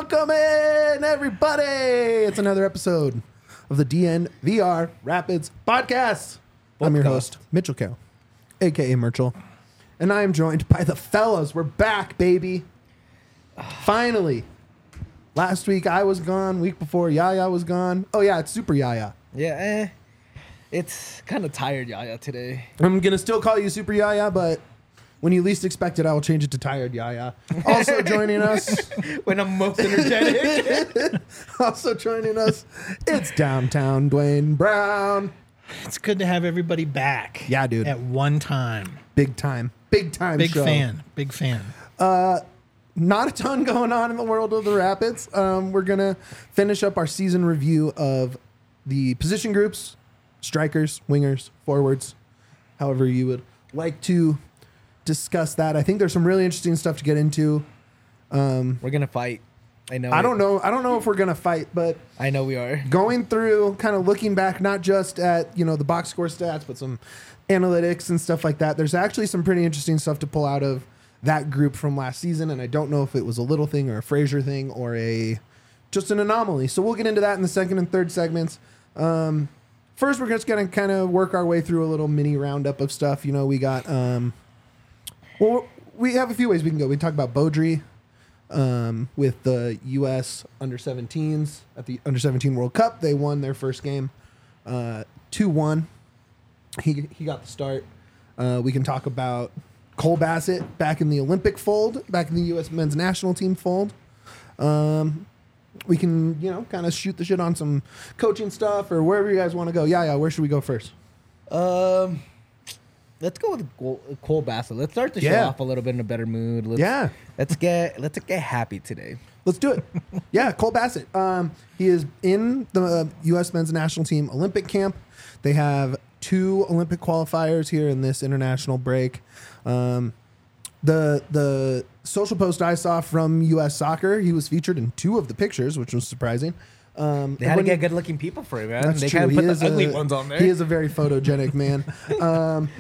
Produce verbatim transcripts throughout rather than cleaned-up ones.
Welcome in, everybody. It's another episode of the D N V R Rapids podcast. I'm your host, Mitchell Carroll, a k a. Merchel, and I am joined by the fellas. We're back, baby. Finally. Last week I was gone. Week before Yaya was gone. Oh, yeah, it's Super Yaya. Yeah, eh. It's kind of tired Yaya today. I'm going to still call you Super Yaya, but when you least expect it, I will change it to Tired Yaya. Also joining us. When I'm most energetic. Also joining us, it's Downtown Dwayne Brown. It's good to have everybody back. Yeah, dude. At one time. Big time. Big time Big show. fan. Big fan. Uh, not a ton going on in the world of the Rapids. Um, we're going to finish up our season review of the position groups, strikers, wingers, forwards, however you would like to discuss that. I think there's some really interesting stuff to get into. Um, We're going to fight. I know. I it. don't know. I don't know if we're going to fight, but I know we are. going through, kind of looking back, not just at, you know, the box score stats, but some analytics and stuff like that. There's actually some pretty interesting stuff to pull out of that group from last season, and I don't know if it was a little thing or a Frazier thing or a just an anomaly. So we'll get into that in the second and third segments. Um, first, we're just going to kind of work our way through a little mini roundup of stuff. You know, we got, um, well, we have a few ways we can go. We can talk about Beaudry um, with the U S under seventeens at the under seventeen World Cup. They won their first game uh, two one. He, he got the start. Uh, we can talk about Cole Bassett back in the Olympic fold, back in the U S men's national team fold. Um, we can, you know, kind of shoot the shit on some coaching stuff or wherever you guys want to go. Yeah, yeah. Where should we go first? Um, let's go with Cole, Cole Bassett. Let's start the show Yeah. off a little bit in a better mood. Let's, Yeah. Let's get let's get happy today. Let's do it. Yeah, Cole Bassett. Um, he is in the uh, U S men's national team Olympic camp. They have two Olympic qualifiers here in this international break. Um, the the social post I saw from U S Soccer, he was featured in two of the pictures, which was surprising. Um, They had to when get he- good-looking people for it, man. That's they true. kind of He put is the ugly a- ones on there. He is a very photogenic man. Um,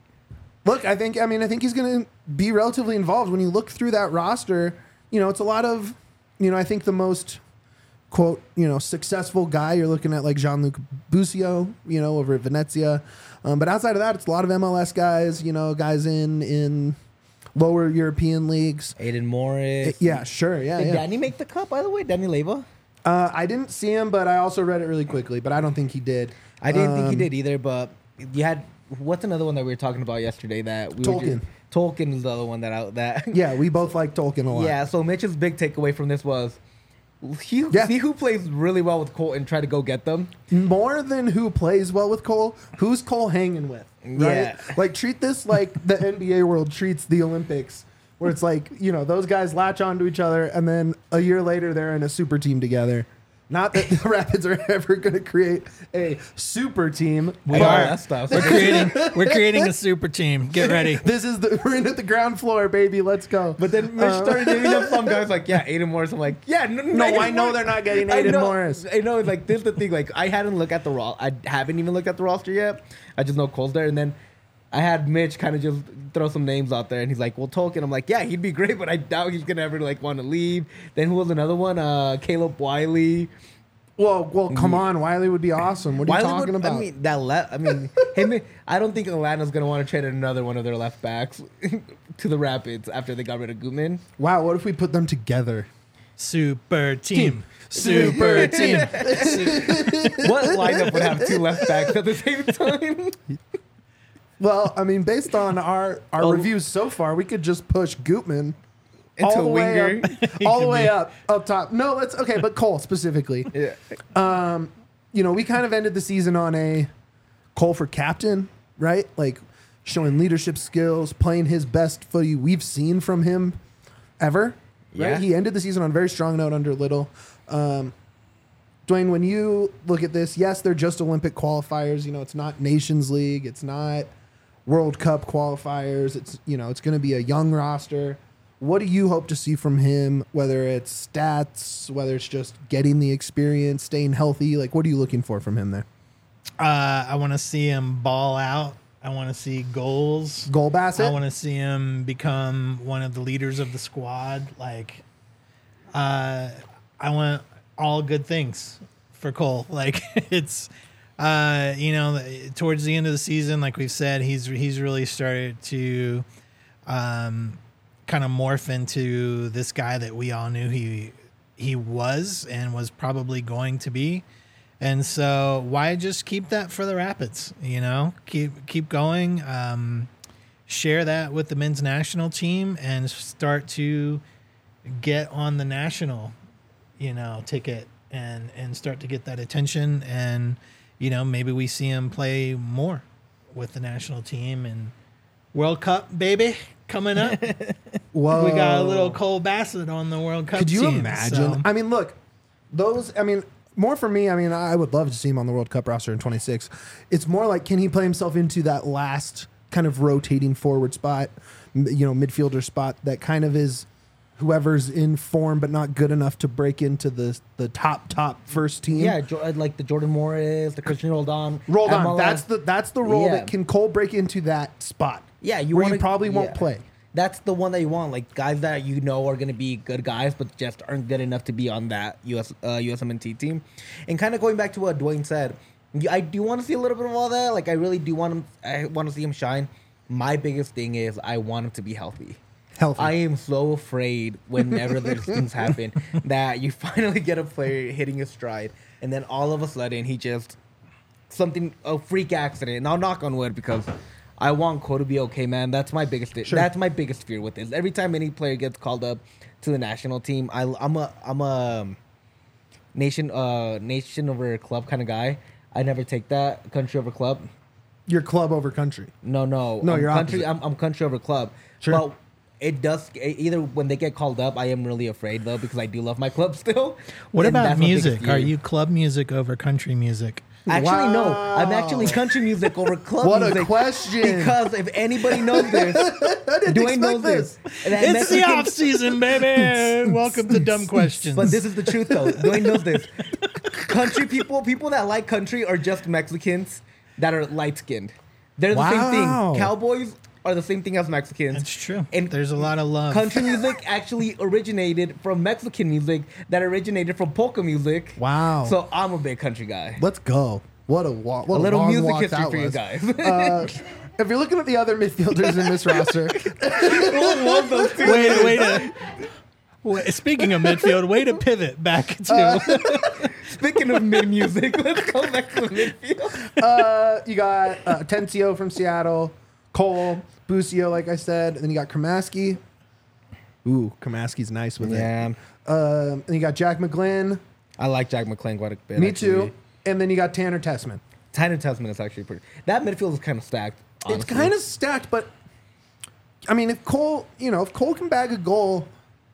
look, I think. I mean, I think he's going to be relatively involved. When you look through that roster, you know, it's a lot of, you know, I think the most quote, you know, successful guy you're looking at like Jean-Luc Busio, you know, over at Venezia. Um, but outside of that, it's a lot of M L S guys. You know, guys in in lower European leagues. Aiden Morris. Yeah, sure. Yeah, Did yeah. Danny make the cut, by the way? Danny Leyva? Uh, I didn't see him, but I also read it really quickly. But I don't think he did. I didn't think he Um, did either, but you had... What's another one that we were talking about yesterday that... we were Tolkien. just- Tolkien is the other one that... I, that Yeah, we both like Tolkien a lot. Yeah, so Mitch's big takeaway from this was he, Yeah. see who plays really well with Cole and try to go get them. More than who plays well with Cole, who's Cole hanging with? Right? Yeah. Like, treat this like the N B A world treats the Olympics, where it's like, you know, those guys latch onto each other, and then a year later, they're in a super team together. Not that the Rapids are ever going to create a super team. We All are. that stuff. We're creating we're creating a super team. Get ready. This is the, we're in at the ground floor, baby. Let's go. But then Mitch Uh, started naming up some guys like, yeah, Aiden Morris. I'm like, yeah, no, No, Aiden I know Morris. they're not getting I Aiden know, Morris. I know, like, this is the thing. Like, I hadn't looked at the ro- I haven't even looked at the roster yet. I just know Cole's there. And then I had Mitch kind of just throw some names out there. And he's like, well, Tolkien. I'm like, yeah, he'd be great, but I doubt he's going to ever, like, want to leave. Then who was another one? Uh, Caleb Wiley. Well, well, come on. Wiley would be awesome. What are you Wiley talking would, about? I mean, that left. I mean, him. I don't think Atlanta's gonna want to trade another one of their left backs to the Rapids after they got rid of Gutman. Wow, what if we put them together? Super team. Team. Super team. What lineup would have two left backs at the same time? Well, I mean, based on our, our Oh. reviews so far, we could just push Gutman Into all a the way winger. up, all the way up, up top. No, let's okay, but Cole specifically. Yeah. Um, you know, we kind of ended the season on a Cole for captain, right? Like showing leadership skills, playing his best footy we've seen from him ever. Right? Yeah. He ended the season on a very strong note under Little. Um, Dwayne, when you look at this, yes, they're just Olympic qualifiers. You know, it's not Nations League. It's not World Cup qualifiers. It's, you know, it's going to be a young roster. What do you hope to see from him, whether it's stats, whether it's just getting the experience, staying healthy? Like, what are you looking for from him there? Uh, I want to see him ball out. I want to see goals. Goal Bassett? I want to see him become one of the leaders of the squad. Like, uh, I want all good things for Cole. Like it's, uh, you know, towards the end of the season, like we've said, he's he's really started to um, kind of morph into this guy that we all knew he he was and was probably going to be. And so why just keep that for the Rapids? You know, keep keep going. Um, share that with the men's national team and start to get on the national, you know, ticket and and start to get that attention. And you know, maybe we see him play more with the national team and World Cup, baby, coming up. Whoa. We got a little Cole Bassett on the World Cup Could you team, imagine? so- I mean, look, those, I mean, more for me, I mean, I would love to see him on the World Cup roster in twenty-six. It's more like, can he play himself into that last kind of rotating forward spot, m- you know, midfielder spot that kind of is whoever's in form but not good enough to break into the the top, top first team? Yeah, Jo- like the Jordan Morris, the Christian Roldan. Rolled on. M L S. That's the that's the role Yeah. that can Cole break into that spot. Yeah, you where wanna, you probably won't yeah. play. That's the one that you want, like guys that you know are going to be good guys, but just aren't good enough to be on that U S uh, U S M N T team. And kind of going back to what Dwayne said, y- I do want to see a little bit of all that. Like I really do want him. I want to see him shine. My biggest thing is I want him to be healthy. Healthy. I am so afraid whenever these things happen that you finally get a player hitting his stride, and then all of a sudden he just something a freak accident. And I'll knock on wood because I want Cole to be okay, man. That's my biggest. Sure. That's my biggest fear with this. Every time any player gets called up to the national team, I, I'm a I'm a nation uh nation over club kind of guy. I never take that country over club. Your club over country. No, no, No, I'm you're country. opposite. I'm, I'm country over club. Sure. But it does either when they get called up. I am really afraid though because I do love my club still. What And about that's my biggest music? Are fear. you club music over country music? Actually, no. I'm Wow. actually country music over club What a music. question. Because if anybody knows this, Dwayne knows this. And that It's the Mexican- off season, baby. Welcome to Dumb Questions. But this is the truth, though. Dwayne knows this. Country people, people that like country, are just Mexicans that are light skinned. They're the Wow. same thing. Cowboys are the same thing as Mexicans. That's true. And There's a lot of love. country music actually originated from Mexican music that originated from polka music. Wow. So I'm a big country guy. Let's go. What a walk. What A little long music walk history that for you was. guys. Uh, if you're looking at the other midfielders in this roster, Love those two. Wait, wait. A, wait, speaking of midfield, way to pivot back to. Uh, Speaking of mid music, let's go back to the midfield. uh, you got uh, Atencio from Seattle, Cole, Busio, like I said, and then you got Kramaski. Ooh, Kramaski's nice with Yeah, it. Um, and you got Jack McGlynn. I like Jack McClain quite a bit. Me actually. too. And then you got Tanner Tessman. Tanner Tessman is actually pretty. That midfield is kind of stacked. Honestly. It's kind of stacked, but I mean, if Cole, you know, if Cole can bag a goal,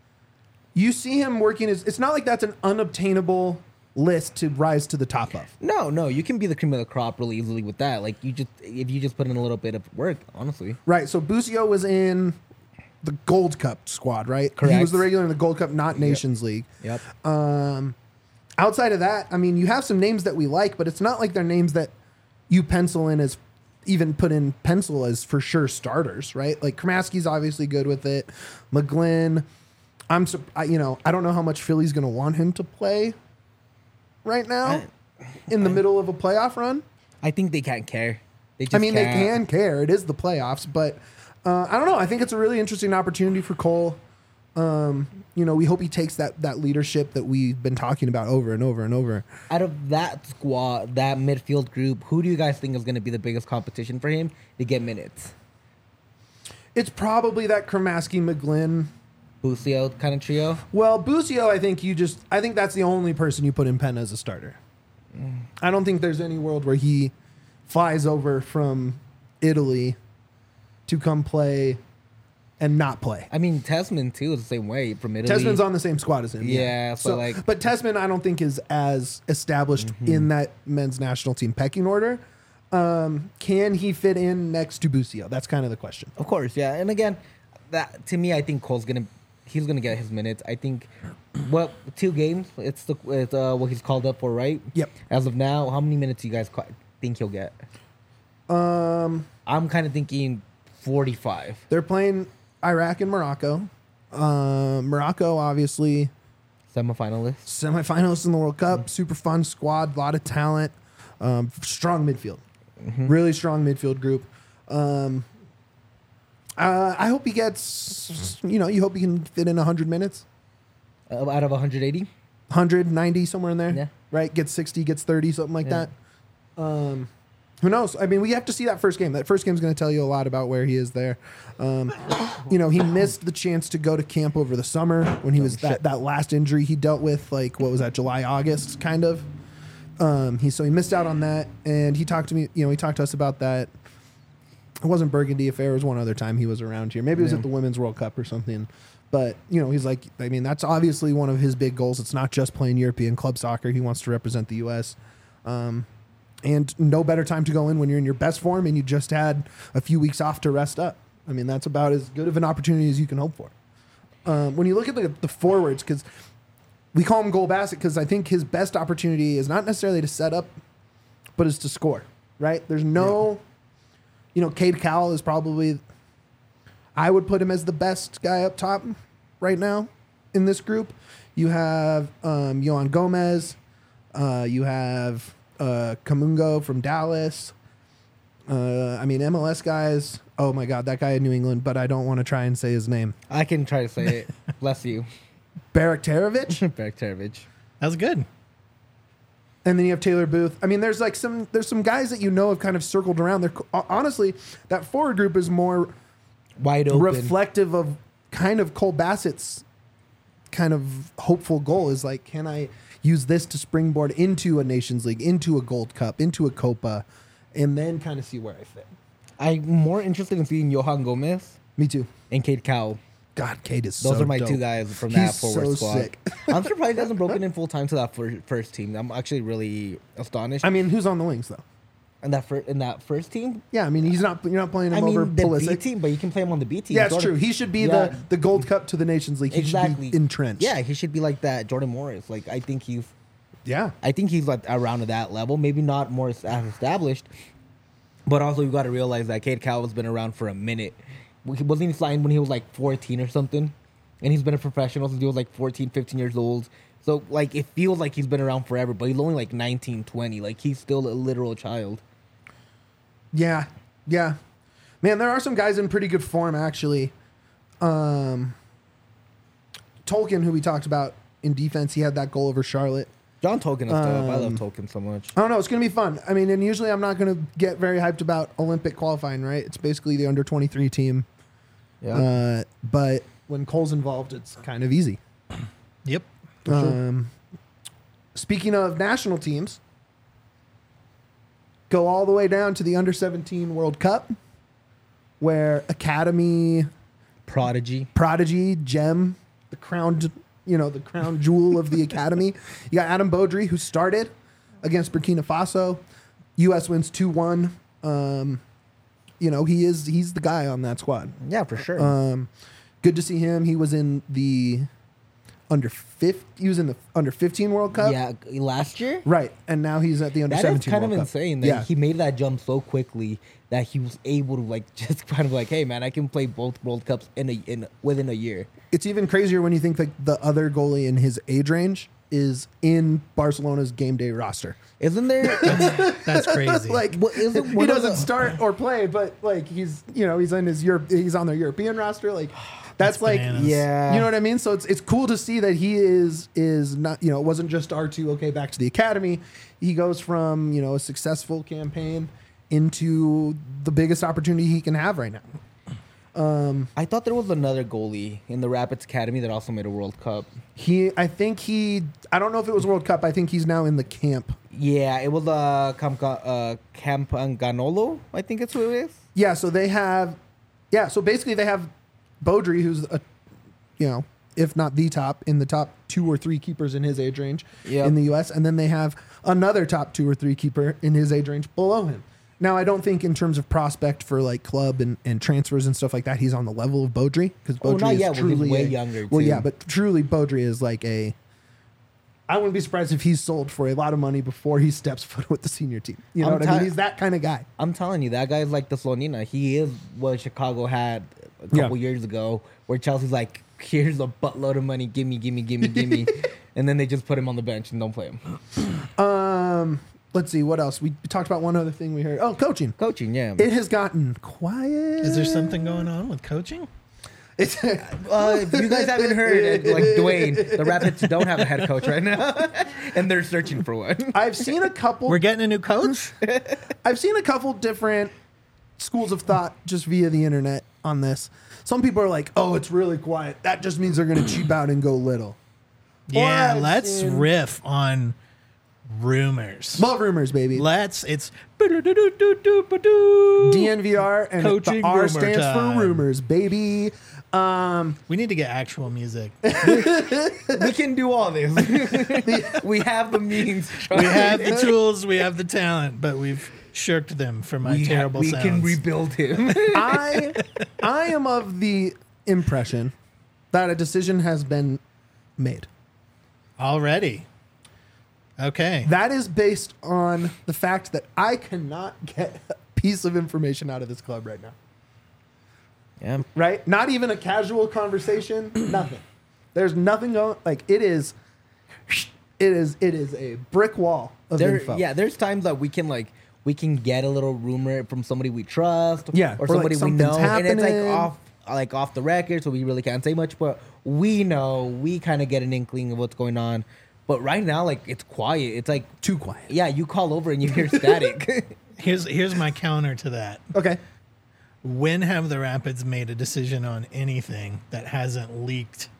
you see him working. His, it's not like that's an unobtainable list to rise to the top of. no, no. You can be the cream of the crop really easily with that. Like you just if you just put in a little bit of work, honestly. Right. So Busio was in the Gold Cup squad, right? He Correct. was the regular in the Gold Cup, not Nations League. Yep. Um, outside of that, I mean, you have some names that we like, but it's not like they're names that you pencil in as even put in pencil as for sure starters, right? Like Kramaski's obviously good with it. McGlynn, I'm, sup- I, you know, I don't know how much Philly's going to want him to play right now in the middle of a playoff run. I think they can't care. They just I mean, they can't. can care. It is the playoffs, but uh, I don't know. I think it's a really interesting opportunity for Cole. Um, you know, we hope he takes that that leadership that we've been talking about over and over and over. Out of that squad, that midfield group, who do you guys think is going to be the biggest competition for him to get minutes? It's probably that Kramaski McGlynn. Busio kind of trio. Well, Busio, I think you just, I think that's the only person you put in pen as a starter. I don't think there's any world where he flies over from Italy to come play and not play. I mean, Tessman too is the same way from Italy. Tessman's on the same squad as him. Yeah, so, like- but Tessman, I don't think is as established in that men's national team pecking order. Um, can he fit in next to Busio? That's kind of the question. Of course, yeah. And again, that to me, I think Cole's gonna he's gonna get his minutes. I think what two games? It's the it's, uh, what he's called up for, right? Yep. As of now, how many minutes do you guys qu- think he'll get? Um, I'm kind of thinking forty-five. they're playing Iraq and Morocco. Um, Morocco, obviously, Semifinalists. Semifinalists in the World Cup. Super fun squad. A lot of talent. Um, strong midfield. Mm-hmm. Really strong midfield group. Um, uh, I hope he gets, you know, you hope he can fit in one hundred minutes. Uh, out of one hundred eighty. one hundred ninety, somewhere in there. Yeah. Right? Gets sixty, gets thirty, something like Yeah. that. Um, who knows? I mean, we have to see that first game. That first game is going to tell you a lot about where he is there. Um, you know, he missed the chance to go to camp over the summer when he was that, that last injury he dealt with, like, what was that, July, August, kind of. Um, he So he missed out on that. And he talked to me, you know, he talked to us about that. It wasn't Burgundy Affair. It was one other time he was around here. Maybe it was Yeah. at the Women's World Cup or something. But, you know, he's like, I mean, that's obviously one of his big goals. It's not just playing European club soccer. He wants to represent the U S. Um, and no better time to go in when you're in your best form and you just had a few weeks off to rest up. I mean, that's about as good of an opportunity as you can hope for. Um, when you look at the, the forwards, because we call him Goal Bassett because I think his best opportunity is not necessarily to set up, but is to score, right? There's no, you know, Cade Cowell is probably, I would put him as the best guy up top right now in this group. You have um, Johan Gomez. Uh, you have uh, Kamungo from Dallas. Uh, I mean, M L S guys. Oh, my God, that guy in New England, but I don't want to try and say his name. I can try to say it. Bless you. Baraktarovic. Baraktarovic. That's good. And then you have Taylor Booth. I mean, there's like some there's some guys that you know have kind of circled around. They're honestly, that forward group is more Wide open. reflective of kind of Cole Bassett's kind of hopeful goal is like, can I use this to springboard into a Nations League, into a Gold Cup, into a Copa, and then kind of see where I fit. I'm more interested in seeing Johan Gomez Me too. and Cade Cowell. God, Cade is Those so are my dope. two guys from that He's forward so squad. sick. I'm surprised he hasn't broken in full time to that fir- first team. I'm actually really astonished. I mean, who's on the wings though? in that fir- in that first team. Yeah, I mean, he's not. You're not playing him I mean, over the B Pulisic. team, but you can play him on the B team. Yeah, it's Jordan- true. He should be Yeah. the, the Gold Cup to the Nations League. He exactly should be entrenched. Yeah, he should be like that. Jordan Morris. Like I think he's. Yeah. I think he's like around to that level. Maybe not more as established, but also you got to realize that Cade Cowell's been around for a minute. He wasn't he signed when he was like fourteen or something, and he's been a professional since he was like fourteen, fifteen years old. So like it feels like he's been around forever, but he's only like nineteen, twenty. Like he's still a literal child. Yeah. Yeah. Man, there are some guys in pretty good form actually. Um, Tolkien, who we talked about in defense, he had that goal over Charlotte. John Tolkien is dope. I love Um, Tolkien so much. I don't know. It's going to be fun. I mean, and usually I'm not going to get very hyped about Olympic qualifying, right? It's basically the under twenty-three team. Yeah. Uh, but when Cole's involved, it's kind of easy. Yep. For sure. Um, speaking of national teams, go all the way down to the under seventeen World Cup, where Academy Prodigy. Prodigy, Gem, the crown, you know, the crown jewel of the Academy. You got Adam Beaudry, who started against Burkina Faso. U S wins two one. Um, you know, he is he's the guy on that squad. Yeah, for sure. Um, good to see him. He was in the under fifty. He was in the under fifteen World Cup. yeah, last year. Right, and now he's at the under That is seventeen. kind World of Cup. insane that Yeah, he made that jump so quickly that he was able to like just kind of like, hey man, I can play both World Cups in a in within a year. it's even crazier when you think like the other goalie in his age range is in Barcelona's game day roster. Isn't there? That's crazy. like Well, isn't he one of doesn't the- start or play, but like he's you know he's in his Europe, he's on their European roster. Like that's, That's like bananas. Yeah. you know what I mean. So it's it's cool to see that he is is not you know it wasn't just R two. Okay, back to the academy. He goes from you know a successful campaign into the biggest opportunity he can have right now. Um, I thought there was another goalie in the Rapids Academy that also made a World Cup. he I think he I don't know if it was World Cup. I think he's now in the camp. Yeah, it was uh, Camp uh, Campanganolo, I think it's who it is. Yeah, so they have, yeah, so basically they have Beaudry, who's a, you know, if not the top in the top two or three keepers in his age range Yep. in the U S, and then they have another top two or three keeper in his age range below him. Now, I don't think in terms of prospect for like club and, and transfers and stuff like that, he's on the level of Beaudry because Oh, Beaudry not is yet. Well, he's truly way a- younger, Well, too. yeah, but truly Beaudry is like a. I wouldn't be surprised if he's sold for a lot of money before he steps foot with the senior team. You know I'm what I mean? ti- He's that kind of guy. I'm telling you, that guy's like the Slonina. He is what Chicago had a couple Yeah. years ago, where Chelsea's like, here's a buttload of money, gimme, gimme, gimme, gimme. and then they just put him on the bench and don't play him. Um, let's see what else. We talked about one other thing we heard. Oh, coaching. Coaching, yeah. It has gotten quiet. Is there something going on with coaching? It's, Uh, if you guys haven't heard, like Dwayne, the Rapids don't have a head coach right now, and they're searching for one. I've seen a couple. We're getting a new coach? I've seen a couple different schools of thought just via the internet on this. Some people are like, "Oh, it's really quiet. That just means they're going to cheap out and go little." Yeah, I've let's seen- riff on rumors. Love rumors, baby. Let's, it's D N V R and Coaching the R rumor stands time. for rumors, baby. Um, We need to get actual music. We can do all this. We have the means. We have the tools, we have the talent, but we've shirked them for my we ha- terrible we sounds. can rebuild him. I I am of the impression that a decision has been made. Already. Okay. That is based on the fact that I cannot get a piece of information out of this club right now. Yeah. Right? Not even a casual conversation. Nothing. There's nothing going. Like it is. It is. It is a brick wall of There, info. yeah, there's times that we can like we can get a little rumor from somebody we trust, Yeah, or or, like, somebody we know, something's and it's like happening. off like off the record, so we really can't say much. But we know, we kind of get an inkling of what's going on. But right now, like it's quiet. It's like Too quiet. yeah, you call over and you hear static. Here's here's my counter to that. Okay. When have the Rapids made a decision on anything that hasn't leaked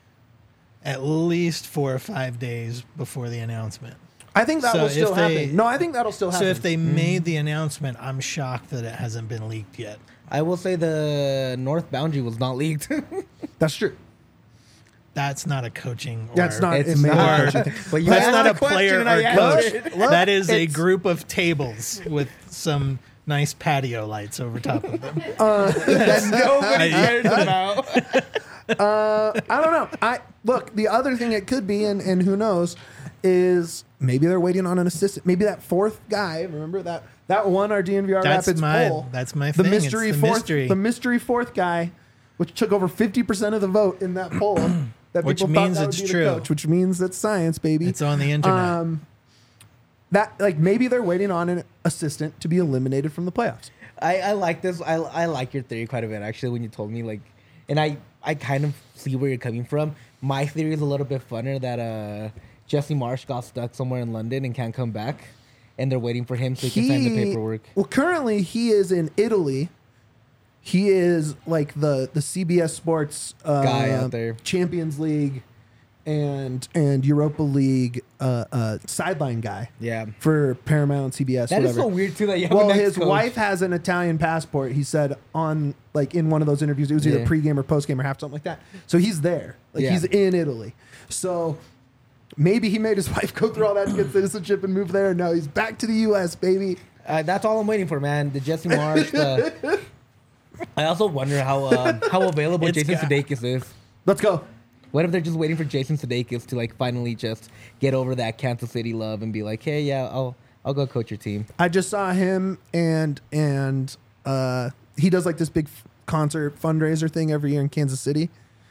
at least four or five days before the announcement? I think that So will if still they- happen. No, I think that'll still happen. So if they made the announcement, I'm shocked that it hasn't been leaked yet. I will say the north boundary was not leaked. That's true. That's not a coaching. Or, That's not. It's it may not. not coaching thing. But you That's asked not the a question player and I or coach. answered. Look, That is a it's- group of tables with some nice patio lights over top of them. that nobody I- cares about. Uh, I don't know. I look. The other thing it could be, and, and who knows, is maybe they're waiting on an assistant. Maybe that fourth guy. Remember that that won our D N V R That's Rapids my- poll. that's my the thing. It's mystery the fourth. mystery. The mystery fourth guy, which took over fifty percent of the vote in that poll. That Which people thought means that it's would be true. The coach, which means it's science, baby. It's on the internet. Um, that like maybe they're waiting on an assistant to be eliminated from the playoffs. I, I like this. I, I like your theory quite a bit actually. When you told me like, and I I kind of see where you're coming from. My theory is a little bit funner that uh Jesse Marsh got stuck somewhere in London and can't come back, and they're waiting for him so he, can sign the paperwork. Well, currently he is in Italy. He is like the the C B S Sports uh, Guy out there. Champions League and and Europa League uh, uh, sideline guy Yeah. for Paramount, C B S. That is whatever. so weird too that you have Well, an his ex-coach. wife has an Italian passport. He said on like in one of those interviews, it was either Yeah. pregame or postgame or half, something like that. So he's there, like Yeah. he's in Italy. So maybe he made his wife go through all that to get citizenship and move there. No, he's back to the U S, baby. Uh, that's all I'm waiting for, man. The Jesse Marsh. The... I also wonder how uh, how available It's Jason got- Sudeikis is. Let's go. What if they're just waiting for Jason Sudeikis to like finally just get over that Kansas City love and be like, hey, yeah, I'll I'll go coach your team. I just saw him and and uh, he does like this big f- concert fundraiser thing every year in Kansas City,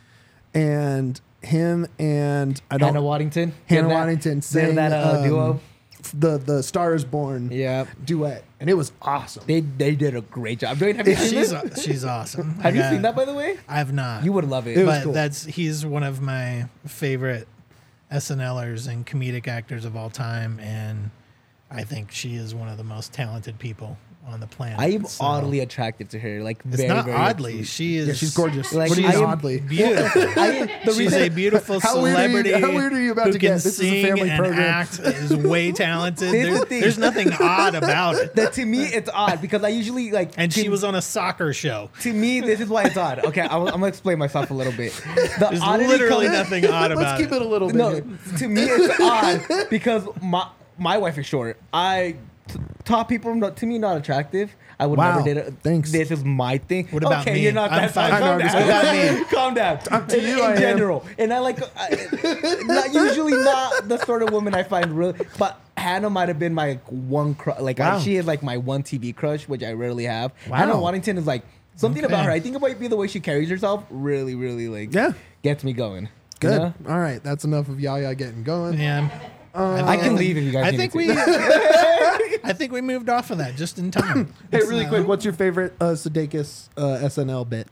and him and I don't Hannah Waddington. Hannah Did that- Waddington did sang that uh, um, duo. the the Star Is Born Yeah, duet, and it was awesome. they they did a great job. Dwayne, have you seen she's this? she's awesome. Have I you got- seen that by the way? I've not. You would love it. It was but cool. that's he's one of my favorite SNLers and comedic actors of all time, and I think she is one of the most talented people on the planet. I am So- oddly attracted to her. Like It's very, not very oddly. She is. Yeah, she's gorgeous. Like, what do you I mean am oddly? Beautiful. I, the She's reason, a beautiful How weird are you- celebrity. how weird are you about who to can get? This is a sing family and program. act. Is way talented. Here's the There's, thing. there's nothing odd about it. that to me it's odd because I usually like. And to, she was on a soccer show. To me, this is why it's odd. Okay, I'm, I'm gonna explain myself a little bit. The There's oddity literally comes- nothing odd about Let's keep it a little bit. No, here. to me it's odd because my my wife is short. I t- top people not, to me not attractive. I would Wow, never date. A, thanks. This is my thing. What about okay, me? you're not I'm that fine. fine. I know, Calm I'm just- down. what about Calm down. Up to in, you, in I am. general, and I like I, not usually not the sort of woman I find really, but. Hannah might have been my one crush. Like Wow. I, she is like my one T V crush, which I rarely have. Wow. Hannah Waddington is like something Okay. about her. I think it might be the way she carries herself. Really, really like Yeah. gets me going. Good. know? All right, that's enough of Yaya getting going. Yeah. I can leave if you guys. I need think me we. to. I think we moved off of that just in time. Hey, It's, really uh, quick, what's your favorite uh, Sudeikis uh, S N L bit?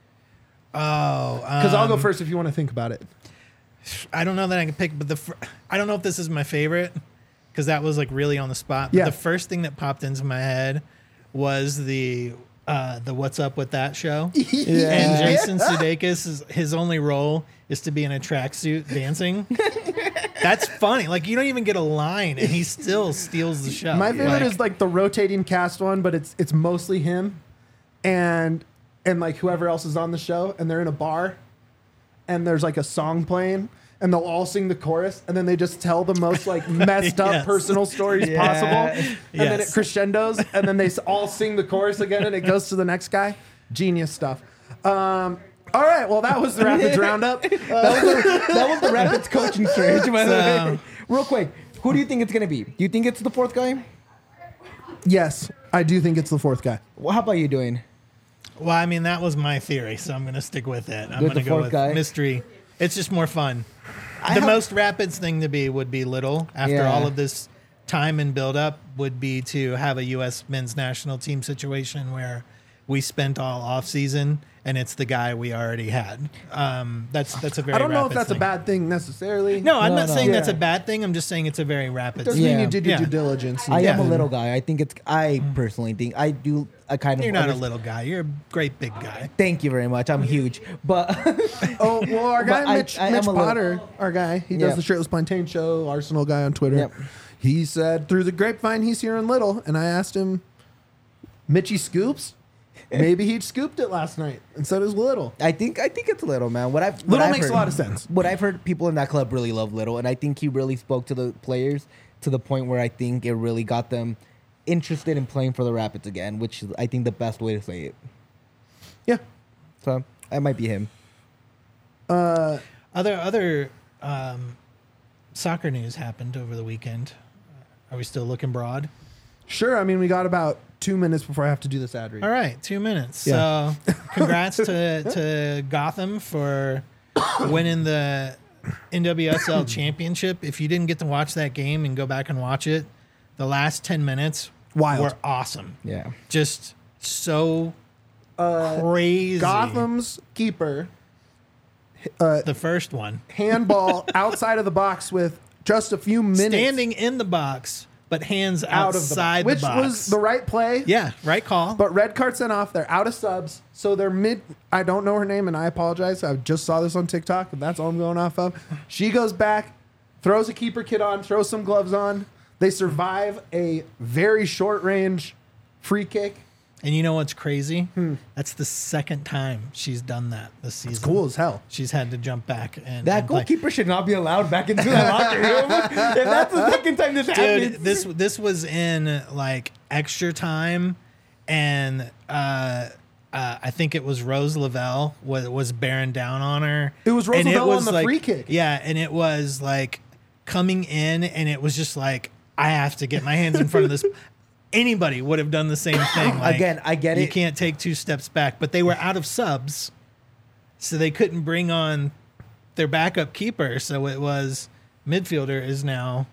Oh, Because I'll go um, first if you want to think about it. I don't know that I can pick, but the fir- I don't know if this is my favorite because that was like really on the spot. But Yeah. the first thing that popped into my head was the uh, the What's Up with That show. Yeah. And Jason Sudeikis, is, his only role is to be in a tracksuit dancing. That's funny. Like you don't even get a line, and he still steals the show. My favorite Like, is like the rotating cast one, but it's it's mostly him, and and like whoever else is on the show, and they're in a bar, and there's like a song playing, and they'll all sing the chorus, and then they just tell the most like messed up Yes. personal stories Yeah. possible, and then it Yes. crescendos, and then they s- all sing the chorus again, and it goes to the next guy. Genius stuff. Um, all right, well that was the Rapids roundup. Uh, that, was the, that was the Rapids coaching search, by the So- way. Real quick, who do you think it's gonna be? Do you think it's the fourth guy? yes, I do think it's the fourth guy. Well, how about you doing? well, I mean, that was my theory, so I'm going to stick with it. I'm With going the to go fourth with guy? mystery. It's just more fun. I the have- most Rapids thing to be would be Little. After Yeah. all of this time and build up, would be to have a U S men's national team situation where we spent all off season and it's the guy we already had. Um, that's that's a very. I don't know if Rapids that's thing. a bad thing necessarily. No, I'm No, not no. saying that's a Yeah. bad thing. I'm just saying it's a very Rapids. doesn't thing. Yeah. mean you did your Yeah. due diligence. I am a Yeah. little guy. I think it's. I personally think I do. I kind of. You're not a understand- little guy. You're a great big guy. Thank you very much. I'm huge, but Oh well, our guy But I- Mitch, I am Mitch a little- Potter, our guy, he Yep. does the Shirtless Plantain show, Arsenal guy on Twitter. Yep. He said through the grapevine he's here in Little, and I asked him, Mitchy scoops? Maybe he scooped it last night and said it was Little. I think I think it's Little, man. What I've what Little I've makes a heard- lot of sense. What I've heard, people in that club really love Little, and I think he really spoke to the players to the point where I think it really got them interested in playing for the Rapids again, which is I think the best way to say it. Yeah. So that might be him. Uh, Other other um, soccer news happened over the weekend. Are we still looking broad? sure. I mean, we got about two minutes before I have to do this ad read. All right, two minutes. Yeah. So, congrats to to Gotham for winning the N W S L championship. If you didn't get to watch that game and go back and watch it, the last ten minutes Wild. were awesome. Yeah. Just so Uh, crazy. Gotham's keeper uh, the first one, handball outside of the box with just a few minutes standing in the box, but hands out outside of the box, which the box. was the right play. yeah, right call. But red card sent off. They're out of subs. So they're mid. I don't know her name, and I apologize. I just saw this on TikTok, and that's all I'm going off of. She goes back, throws a keeper kit on, throws some gloves on. They survive a very short range free kick. And you know what's crazy? That's the second time she's done that this season. It's cool as hell. She's had to jump back and That and play. goalkeeper should not be allowed back into the locker room. If that's the second time this Dude, happens. this this was in like extra time, and uh, uh, I think it was Rose Lavelle was was bearing down on her. It was Rose And Lavelle on the like- free kick. Yeah, and it was like coming in, and it was just like I have to get my hands in front of this. Anybody would have done the same thing. Like, Again, I get you it. can't take two steps back, but they were out of subs, so they couldn't bring on their backup keeper. So it was midfielder is now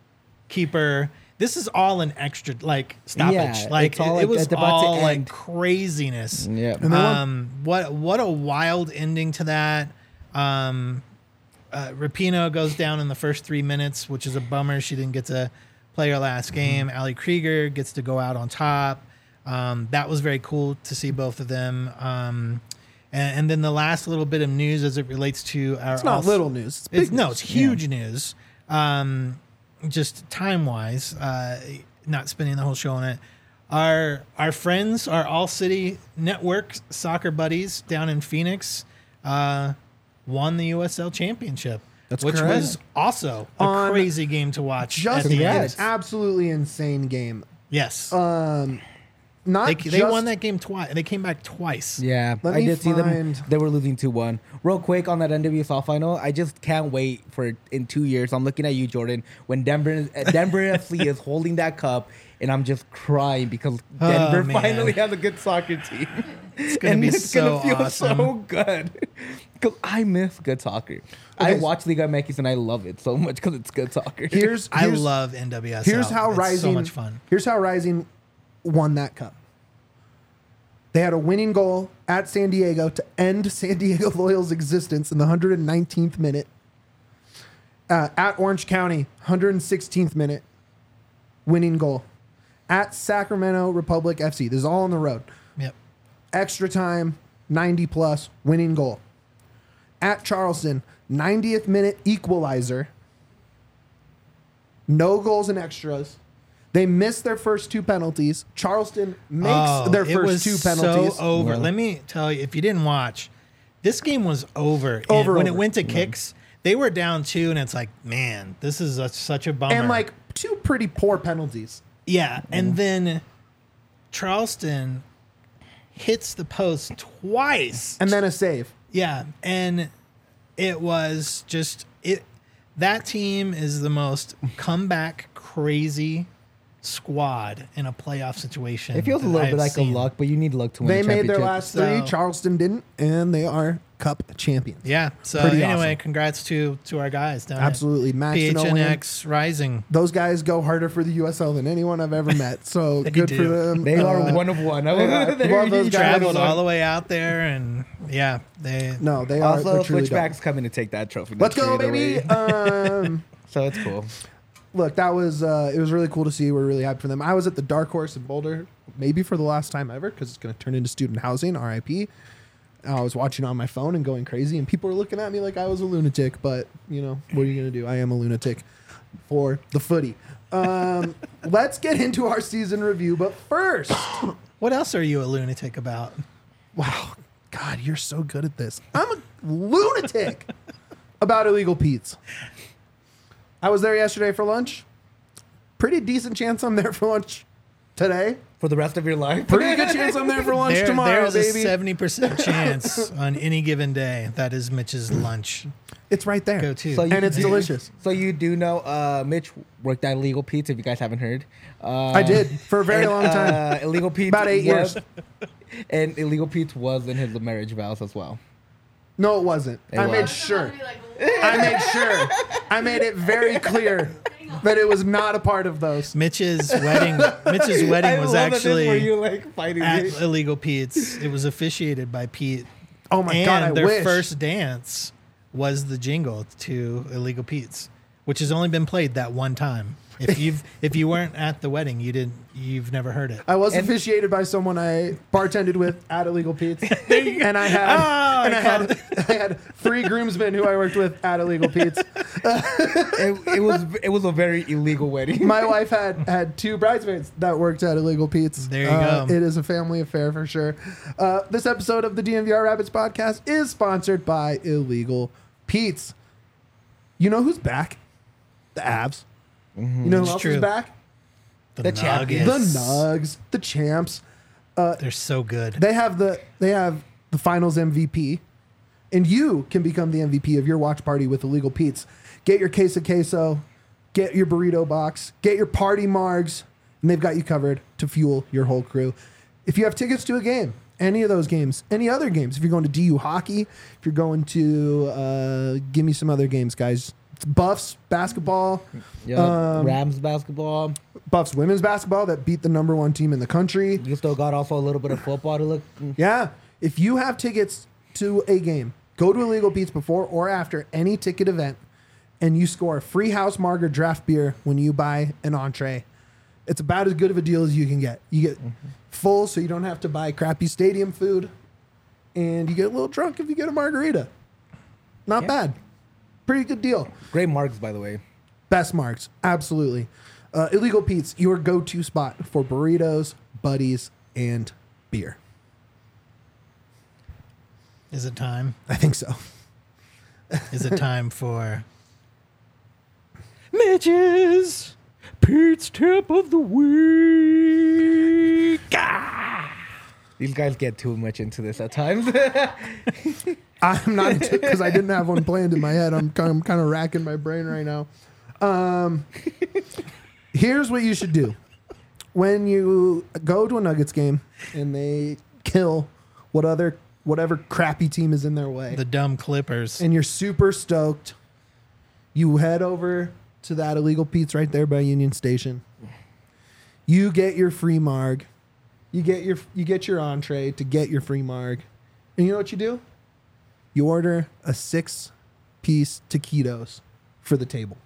keeper. This is all an extra like stoppage. Yeah, like it's all it, it like was it's about to all like end. craziness. Yeah. And they won. Um, what what a wild ending to that. Um, uh, Rapinoe goes down in the first three minutes, which is a bummer. She didn't get to play her last game. Ali Krieger gets to go out on top. Um, that was very cool to see both of them. Um, and, and then the last little bit of news as it relates to our It's not all- little news. It's big it's, no, news. it's huge news. Um, just time wise, uh, not spending the whole show on it. Our our friends, our All City Network soccer buddies down in Phoenix, uh, won the U S L championship, That's which correct. was also a On crazy game to watch. Just at the an end. Congrats. absolutely insane game. Yes, Um, not they they just, won that game twice. They came back twice. Yeah, Let I me did see them. find- They were losing two one. Real quick on that N W S L final, I just can't wait for in two years. I'm looking at you, Jordan, when Denver uh, Denver F C is holding that cup, and I'm just crying because Oh, Denver man. finally has a good soccer team. It's gonna and be it's so gonna feel awesome. so good. Because I miss good soccer. I watch Liga M X and I love it so much because it's good soccer. Here's, I here's love N W S L. Here's how it's Rising so much fun. Here's how Rising won that cup. They had a winning goal at San Diego to end San Diego Loyal's existence in the one hundred nineteenth minute. Uh, at Orange County, one hundred sixteenth minute, winning goal. At Sacramento Republic F C, this is all on the road. Yep. Extra time, ninety plus, winning goal. At Charleston, ninetieth minute equalizer. No goals and extras. They missed their first two penalties. Charleston makes Oh, their it first was two penalties. So over. Yeah. Let me tell you, if you didn't watch, this game was over. And Over, when over. it went to kicks, they were down two, and it's like, man, this is a, such a bummer. And like two pretty poor penalties. yeah, and then Charleston hits the post twice. And then a save. Yeah, and it was just it. That team is the most comeback crazy squad in a playoff situation. It feels a that little I've bit like seen. a luck, but you need luck to win They a made their championship. last So- three. Charleston didn't, and they are cup champions. Yeah. So Pretty anyway, awesome. congrats to to our guys down Absolutely. at Max and Owen. P H N X Rising. Those guys go harder for the U S L than anyone I've ever met. So They good do. for them. They are Uh, one of one. I love those guys. Traveled all the way out there, and yeah, they. No, they are. Also, they're truly dope. Switchback's coming to take that trophy. Let's next go, year baby. either way. um, So it's cool. look, that was uh, it was really cool to see. We're really happy for them. I was at the Dark Horse in Boulder, maybe for the last time ever, because it's going to turn into student housing. R I P. I was watching on my phone and going crazy, and people were looking at me like I was a lunatic. But you know, what are you going to do? I am a lunatic for the footy. Um, let's get into our season review, but first, What else are you a lunatic about? wow, God, you're so good at this. I'm a lunatic about Illegal Pete's. I was there yesterday for lunch. Pretty decent chance I'm there for lunch today. For the rest of your life. Pretty good chance I'm there for lunch There, tomorrow, there's a baby. seventy percent chance on any given day that is Mitch's lunch. It's right there. Go to. So you And it's do- delicious. So you do know uh, Mitch worked at Illegal Pete's, if you guys haven't heard. Uh, I did for a very and, long time. Uh, Illegal Pete's About eight was- years. And Illegal Pete's was in his marriage vows as well. No, it wasn't. It I made was. sure. I made sure. I made it very clear that it was not a part of those. Mitch's wedding. Mitch's wedding I was love that this actually where you like fighting at me. Illegal Pete's. It was officiated by Pete. Oh my and God, I their wish. first dance was the jingle to Illegal Pete's, which has only been played that one time. If you've if you weren't at the wedding, you didn't. You've never heard it. I was And- officiated by someone I bartended with at Illegal Pete's, and I had Oh, and I I had I had three groomsmen who I worked with at Illegal Pete's. it, it was it was a very illegal wedding. My wife had had two bridesmaids that worked at Illegal Pete's. There you Uh, go. It is a family affair for sure. Uh, this episode of the D N V R Rabbits podcast is sponsored by Illegal Pete's. You know who's back? The Avs. You know who It's else true. is back? The, The champions. Nuggets. The Nugs, the champs. They're so good. They have the they have the Finals M V P, and you can become the M V P of your watch party with Illegal Pete's. Get your queso queso, get your burrito box, get your party margs, and they've got you covered to fuel your whole crew. If you have tickets to a game, any of those games, any other games, if you're going to D U hockey, if you're going to uh, give me some other games, guys. It's Buffs basketball, Yeah, Um, Rams basketball. Buffs women's basketball that beat the number one team in the country. You still got also a little bit of football to look. Yeah. If you have tickets to a game, go to Illegal Pete's before or after any ticket event, and you score a free house marger draft beer when you buy an entree. It's about as good of a deal as you can get. You get full, so you don't have to buy crappy stadium food, and you get a little drunk if you get a margarita. Not Yeah. bad. Pretty good deal. Great marks, by the way. Best marks, absolutely. Uh, Illegal Pete's, your go-to spot for burritos, buddies, and beer. Is it time? I think so. Is it time for Mitch's Pete's Tip of the Week? Ah! These guys get too much into this at times. I'm not because I didn't have one planned in my head. I'm kind of, kind of racking my brain right now. Um, here's what you should do when you go to a Nuggets game and they kill what other whatever crappy team is in their way. The dumb Clippers. And you're super stoked. You head over to that Illegal Pete's right there by Union Station. You get your free marg. You get your you get your entree to get your free marg. And you know what you do? You order a six-piece taquitos for the table.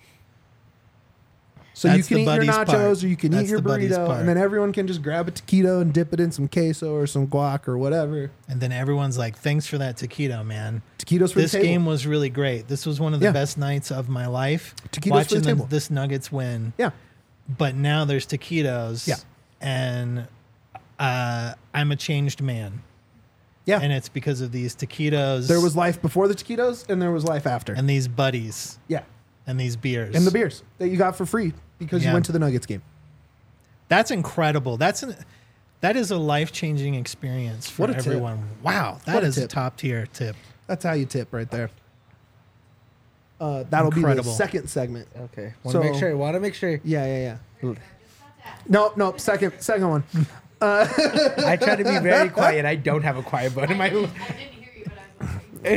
So That's you can the eat your buddies nachos part. or you can That's eat your the buddies burrito, part. and then everyone can just grab a taquito and dip it in some queso or some guac or whatever. And then everyone's like, thanks for that taquito, man. Taquitos for This the table. game was really great. This was one of the Yeah. best nights of my life. Taquitos for watching the the- table. this Nuggets win. Yeah. But now there's taquitos. Yeah. And uh, I'm a changed man. Yeah. And it's because of these taquitos. There was life before the taquitos and there was life after. and these buddies yeah. and these beers. And the beers that you got for free because Yeah. you went to the Nuggets game. That's incredible. That's an that is a life changing experience for What a tip. everyone. Wow, that What a is a tip. top tier tip. That's how you tip right there. Uh, that'll be Incredible. the second segment. Okay. Want to So- make sure. Want to make sure. Yeah, yeah, yeah. Nope, nope. Second, second one. I try to be very quiet. I don't have a quiet button in my. I didn't hear you, but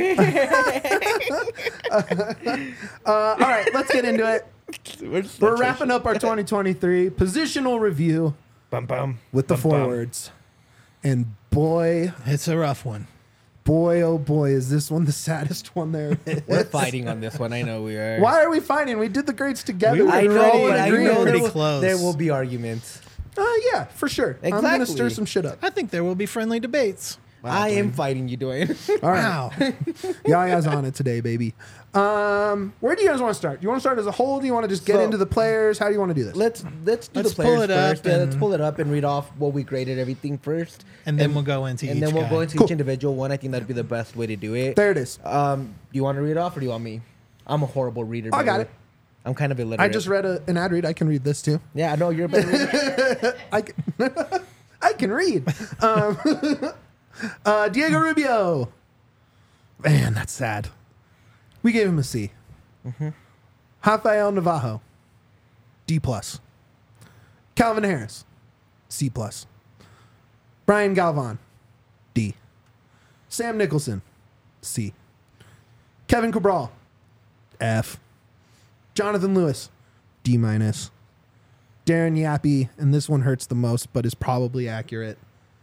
I was listening. Uh, all right, let's get into it. We're wrapping up our twenty twenty-three positional review Bum bum. with the Bum, bum. forwards. And boy, It's a rough one. boy, oh boy, is this one the saddest one there is. We're fighting on this one. I know we are. Why are we fighting? We did the grades together. We were I We're know, all in but I agreement. know there Pretty will, close. there will be arguments. Uh, yeah, for sure. I'm going to Exactly. stir some shit up. I think there will be friendly debates. I am fighting you, Dwayne. All right. Wow. Yaya's on it today, baby. Um, where do you guys want to start? Do you want to start as a whole? Do you want to just get So- into the players? How do you want to do this? let's let's do Let's the players pull it up first. Yeah, let's and- pull it up and read off what we graded everything first, And then we'll go into and each then we'll guy. go into Cool. each individual one. I think that'd be the best way to do it. There it is. Um, do you want to read off or do you want me? I'm a horrible reader. I by got the it. way. I'm kind of illiterate. I just read a, an ad read. I can read this too. Yeah, I know you're a better reader. I can, I can read. Um, uh, Diego Rubio. Man, that's sad. We gave him a C. Rafael Navajo, D plus. Calvin Harris, C plus. Brian Galvan, D. Sam Nicholson, C. Kevin Cabral, F. Jonathan Lewis, D minus. Darren Yappy, and this one hurts the most, but is probably accurate.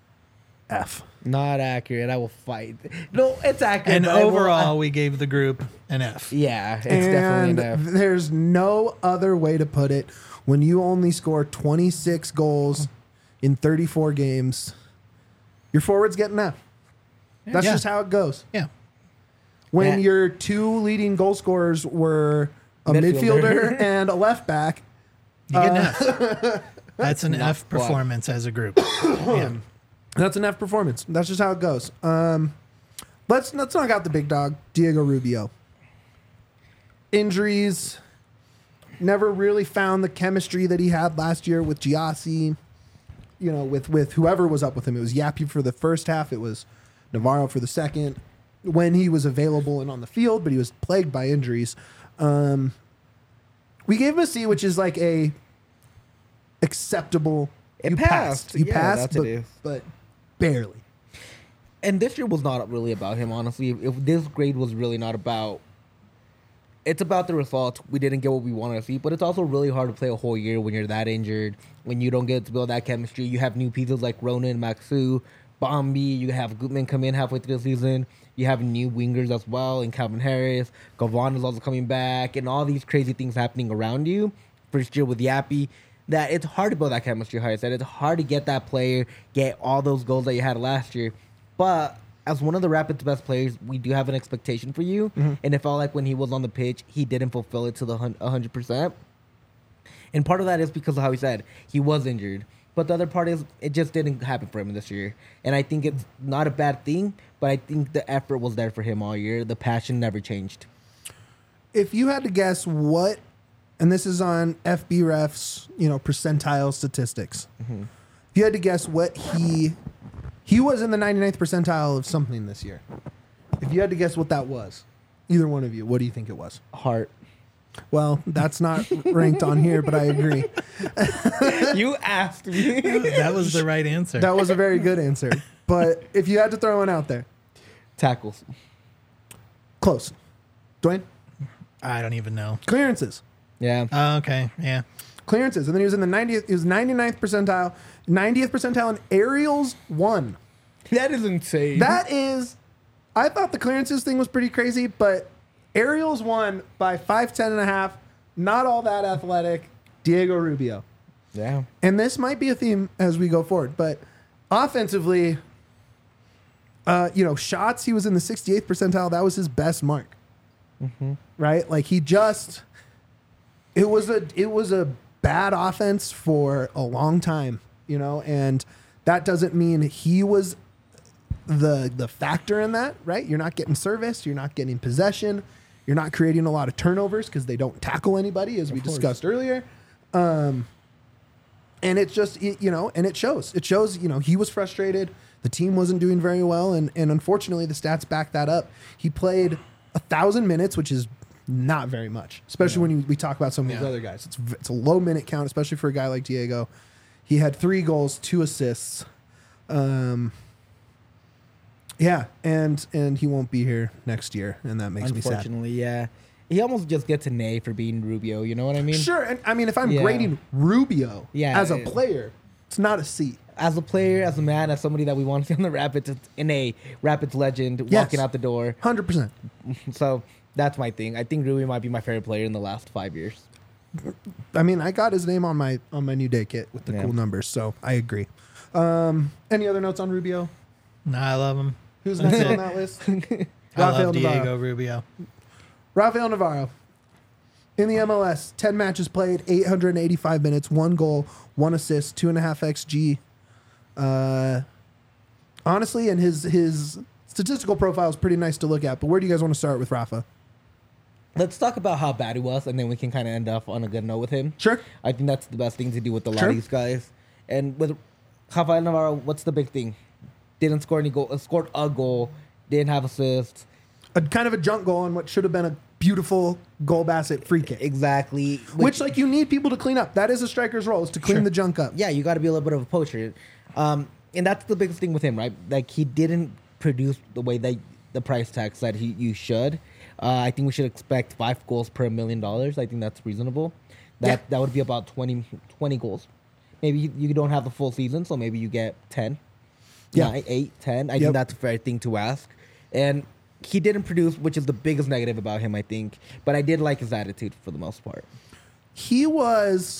F. Not accurate. I will fight. No, it's accurate. And but I will- overall, we gave the group an F. yeah, it's and definitely enough. there's no other way to put it. When you only score twenty-six goals in thirty-four games, your forwards get an F. That's Yeah. just how it goes. Yeah. When Yeah. your two leading goal scorers were a Midfielder. midfielder and a left back, You get an Uh, F. That's an Not F bad. performance as a group. Yeah. that's an F performance. That's just how it goes. Um, let's let's knock out the big dog, Diego Rubio. Injuries. Never really found the chemistry that he had last year with Giassi. You know, with with whoever was up with him. It was Yappy for the first half. It was Navarro for the second. When he was available and on the field, but he was plagued by injuries. Um, we gave him a C, which is like a acceptable. It you passed. You Yeah, passed, that's but, it is. but barely. And this year was not really about him, honestly. If this grade was really not about, it's about the results. We didn't get what we wanted to see, but it's also really hard to play a whole year when you're that injured, when you don't get to build that chemistry. You have new pieces like Ronan, Maxu, Bombi. You have Gutman come in halfway through the season. You have new wingers as well, and Calvin Harris. Gavon is also coming back, and all these crazy things happening around you. First year with Yappy, that it's hard to build that chemistry. How I said, it's hard to get that player, get all those goals that you had last year. But as one of the Rapids' best players, we do have an expectation for you. And it felt like when he was on the pitch, he didn't fulfill it to the hun- one hundred percent. And part of that is because of how he said he was injured. But the other part is it just didn't happen for him this year. And I think it's not a bad thing, but I think the effort was there for him all year. The passion never changed. If you had to guess what, and this is on F B Ref's, you know, percentile statistics. Mm-hmm. If you had to guess what he he was in the ninety-ninth percentile of something this year. If you had to guess what that was, either one of you, what do you think it was? Heart. Well, that's not ranked on here, but I agree. You asked me. That was the right answer. That was a very good answer. but if you had to throw one out there, Tackles. close. Dwayne, I don't even know. clearances. Yeah. Oh, okay. Yeah. Clearances, and then he was in the ninetieth. He was ninety-ninth percentile, ninetieth percentile in aerials one. That is insane. That is, I thought the clearances thing was pretty crazy, but aerials won by five ten and a half. Not all that athletic. Diego Rubio. Yeah. And this might be a theme as we go forward, but offensively, uh, you know, shots, he was in the sixty-eighth percentile. That was his best mark. Mm-hmm. Right? Like he just, it was a, it was a bad offense for a long time, you know, and that doesn't mean he was the the factor in that, right? You're not getting service, you're not getting possession, you're not creating a lot of turnovers because they don't tackle anybody, as we discussed earlier. Um, and it's just, it, you know, and it shows. It shows, you know, he was frustrated. The team wasn't doing very well, and and unfortunately, the stats back that up. He played a thousand minutes, which is not very much, especially when you, we talk about some of these Yeah. other guys. It's v- it's a low minute count, especially for a guy like Diego. He had three goals, two assists. Um, yeah, and and he won't be here next year, and that makes me sad. Unfortunately, yeah. He almost just gets an A for being Rubio. You know what I mean? Sure, and I mean, if I'm Yeah. grading Rubio Yeah, as a it- player, it's not a C. As a player, as a man, as somebody that we want to see on the Rapids, it's an A. Rapids legend, Yes. walking out the door. Hundred percent. So that's my thing. I think Rubio might be my favorite player in the last five years. I mean, I got his name on my on my new day kit with the Yeah. cool numbers, so I agree. Um, any other notes on Rubio? No, I love him. Who's That's next it. on that list? I Rafael love Navarro. Diego Rubio. Rafael Navarro. In the M L S, ten matches played, eight hundred eighty-five minutes, one goal, one assist, two and a half X G. Uh, honestly, and his his statistical profile is pretty nice to look at. But where do you guys want to start with Rafa? Let's talk about how bad he was, and then we can kind of end off on a good note with him. Sure. I think that's the best thing to do with a lot Sure. of these guys. And with Rafael Navarro, what's the big thing? Didn't score any goal. Uh, scored a goal. Didn't have assists. A kind of a junk goal on what should have been a beautiful goal basket free kick. Exactly. Which, like, you need people to clean up. That is a striker's role, is to clean Sure. the junk up. yeah, you got to be a little bit of a poacher. Um, and that's the biggest thing with him, right? Like, he didn't produce the way that the price tag said he you should. Uh, I think we should expect five goals per million dollars. I think that's reasonable. That Yeah. that would be about twenty, twenty goals. Maybe you, you don't have the full season, so maybe you get ten, Yeah. nine, eight, ten. I Yep. think that's a fair thing to ask. And he didn't produce, which is the biggest negative about him, I think. But I did like his attitude for the most part. He was.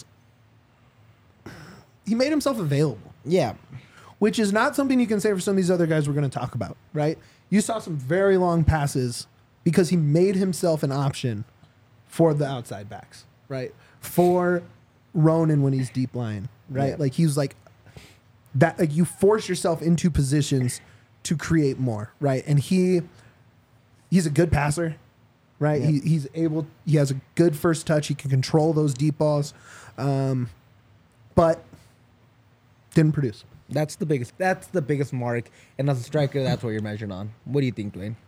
He made himself available, Yeah. which is not something you can say for some of these other guys we're going to talk about, right? You saw some very long passes because he made himself an option for the outside backs, right? For Ronan when he's deep line, right? Yeah. Like he was like that. Like you force yourself into positions to create more, right? And he he's a good passer, right? Yeah. He, he's able. He has a good first touch. He can control those deep balls, um, but didn't produce. That's the biggest. That's the biggest mark. And as a striker, that's what you're measured on. What do you think, Dwayne?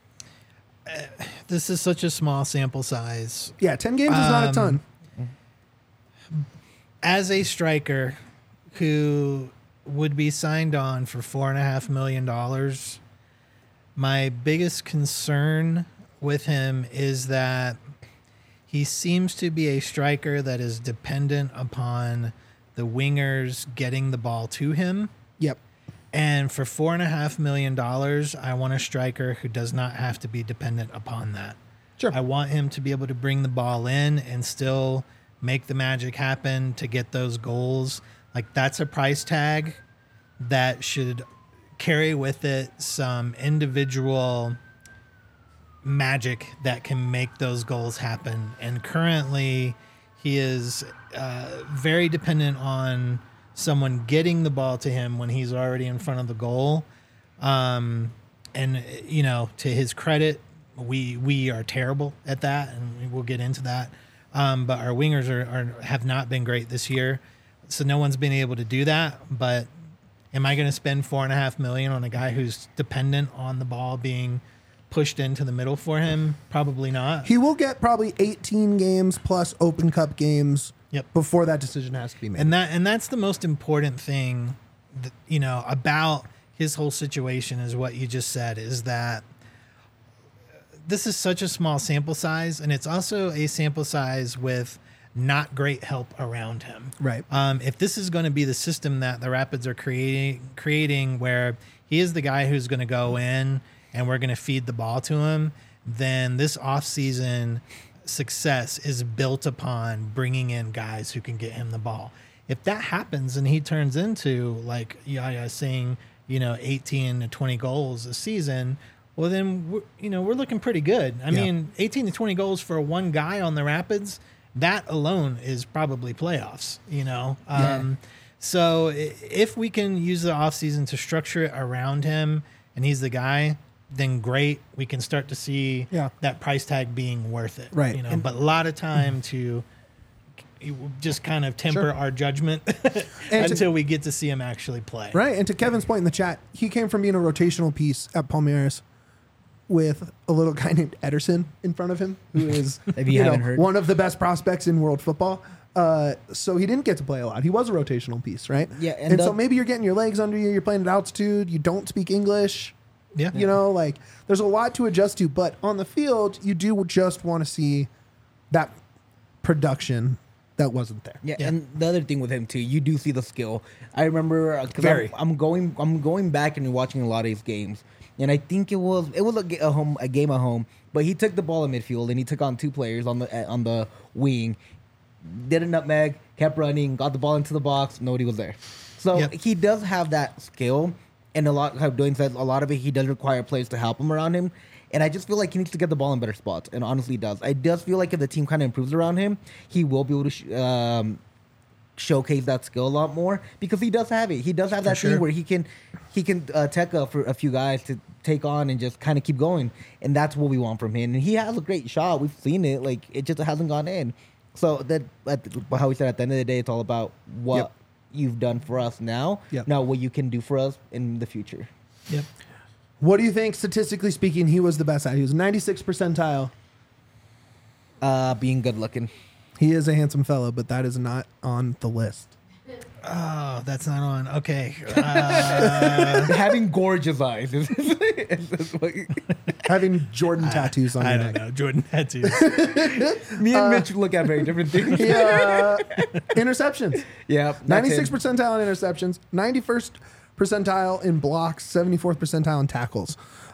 This is such a small sample size. Yeah, ten games is not a ton. As a striker who would be signed on for four and a half million dollars, my biggest concern with him is that he seems to be a striker that is dependent upon the wingers getting the ball to him. Yep. And for four and a half million dollars, I want a striker who does not have to be dependent upon that. Sure. I want him to be able to bring the ball in and still make the magic happen to get those goals. Like that's a price tag that should carry with it some individual magic that can make those goals happen. And currently, he is uh, very dependent on someone getting the ball to him when he's already in front of the goal. Um, and you know, to his credit, we we are terrible at that, and we'll get into that. Um, but our wingers are, are have not been great this year, so no one's been able to do that. But am I going to spend four and a half million on a guy who's dependent on the ball being pushed into the middle for him? Probably not. He will get probably eighteen games plus Open Cup games Yep. before that decision has to be made. And that and that's the most important thing, that, you know, about his whole situation is what you just said, is that this is such a small sample size, and it's also a sample size with not great help around him. Right. Um, if this is going to be the system that the Rapids are creating, creating where he is the guy who's going to go in and we're going to feed the ball to him, then this offseason success is built upon bringing in guys who can get him the ball. If that happens and he turns into, like Yaya saying, you know, eighteen to twenty goals a season, well, then, we're, you know, we're looking pretty good. I Yeah. mean, eighteen to twenty goals for one guy on the Rapids, that alone is probably playoffs, you know? Yeah. Um, so i- if we can use the offseason to structure it around him and he's the guy, then great. We can start to see Yeah. that price tag being worth it. Right. You know, And- but a lot of time to just kind of temper Sure. our judgment And to- until we get to see him actually play. Right. And to Kevin's point in the chat, he came from being a rotational piece at Palmeiras with a little guy named Ederson in front of him, who is If you know, haven't heard. one of the best prospects in world football. Uh, so he didn't get to play a lot. He was a rotational piece, right? Yeah, And, and so the- maybe you're getting your legs under you. You're playing at altitude. You don't speak English. Yeah. You know, like there's a lot to adjust to. But on the field, you do just want to see that production that wasn't there. Yeah, Yeah. and the other thing with him too, you do see the skill. I remember because Very. I'm, I'm going, I'm going back and watching a lot of his games, and I think it was it was a, ga- a home a game at home, but he took the ball in midfield and he took on two players on the on the wing, did a nutmeg, kept running, got the ball into the box, nobody was there. So Yep. he does have that skill, and a lot how doing said a lot of it he does require players to help him around him. And I just feel like he needs to get the ball in better spots, and honestly, he does. I just feel like if the team kind of improves around him, he will be able to sh- um, showcase that skill a lot more because he does have it. He does have that sure. thing where he can he can uh, tech up for a few guys to take on and just kind of keep going, and that's what we want from him. And he has a great shot. We've seen it. Like it just hasn't gone in. So that at, how we said at the end of the day, it's all about what Yep. you've done for us now. Yep. Now what you can do for us in the future. Yep. What do you think, statistically speaking, he was the best at? He was ninety-six percentile. Uh, being good looking. He is a handsome fellow, but that is not on the list. Oh, that's not on. Okay. Uh, Having gorgeous eyes. is- is what- Having Jordan tattoos on I your don't neck. know. Jordan tattoos. Me and Mitch look at very different things. Yeah. Interceptions. Yeah. that's ninety-six him. percentile in interceptions, ninety-first percentile in blocks, seventy-fourth percentile in tackles.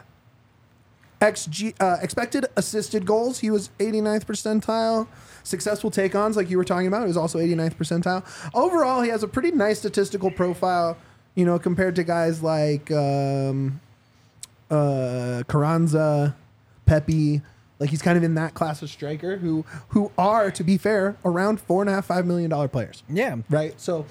X G, uh, expected assisted goals, he was eighty-ninth percentile. Successful take-ons, like you were talking about, he was also eighty-ninth percentile. Overall, he has a pretty nice statistical profile, you know, compared to guys like um, uh, Carranza, Pepe. Like he's kind of in that class of striker who who are, to be fair, around four and a half, five million dollar players. Yeah. Right. So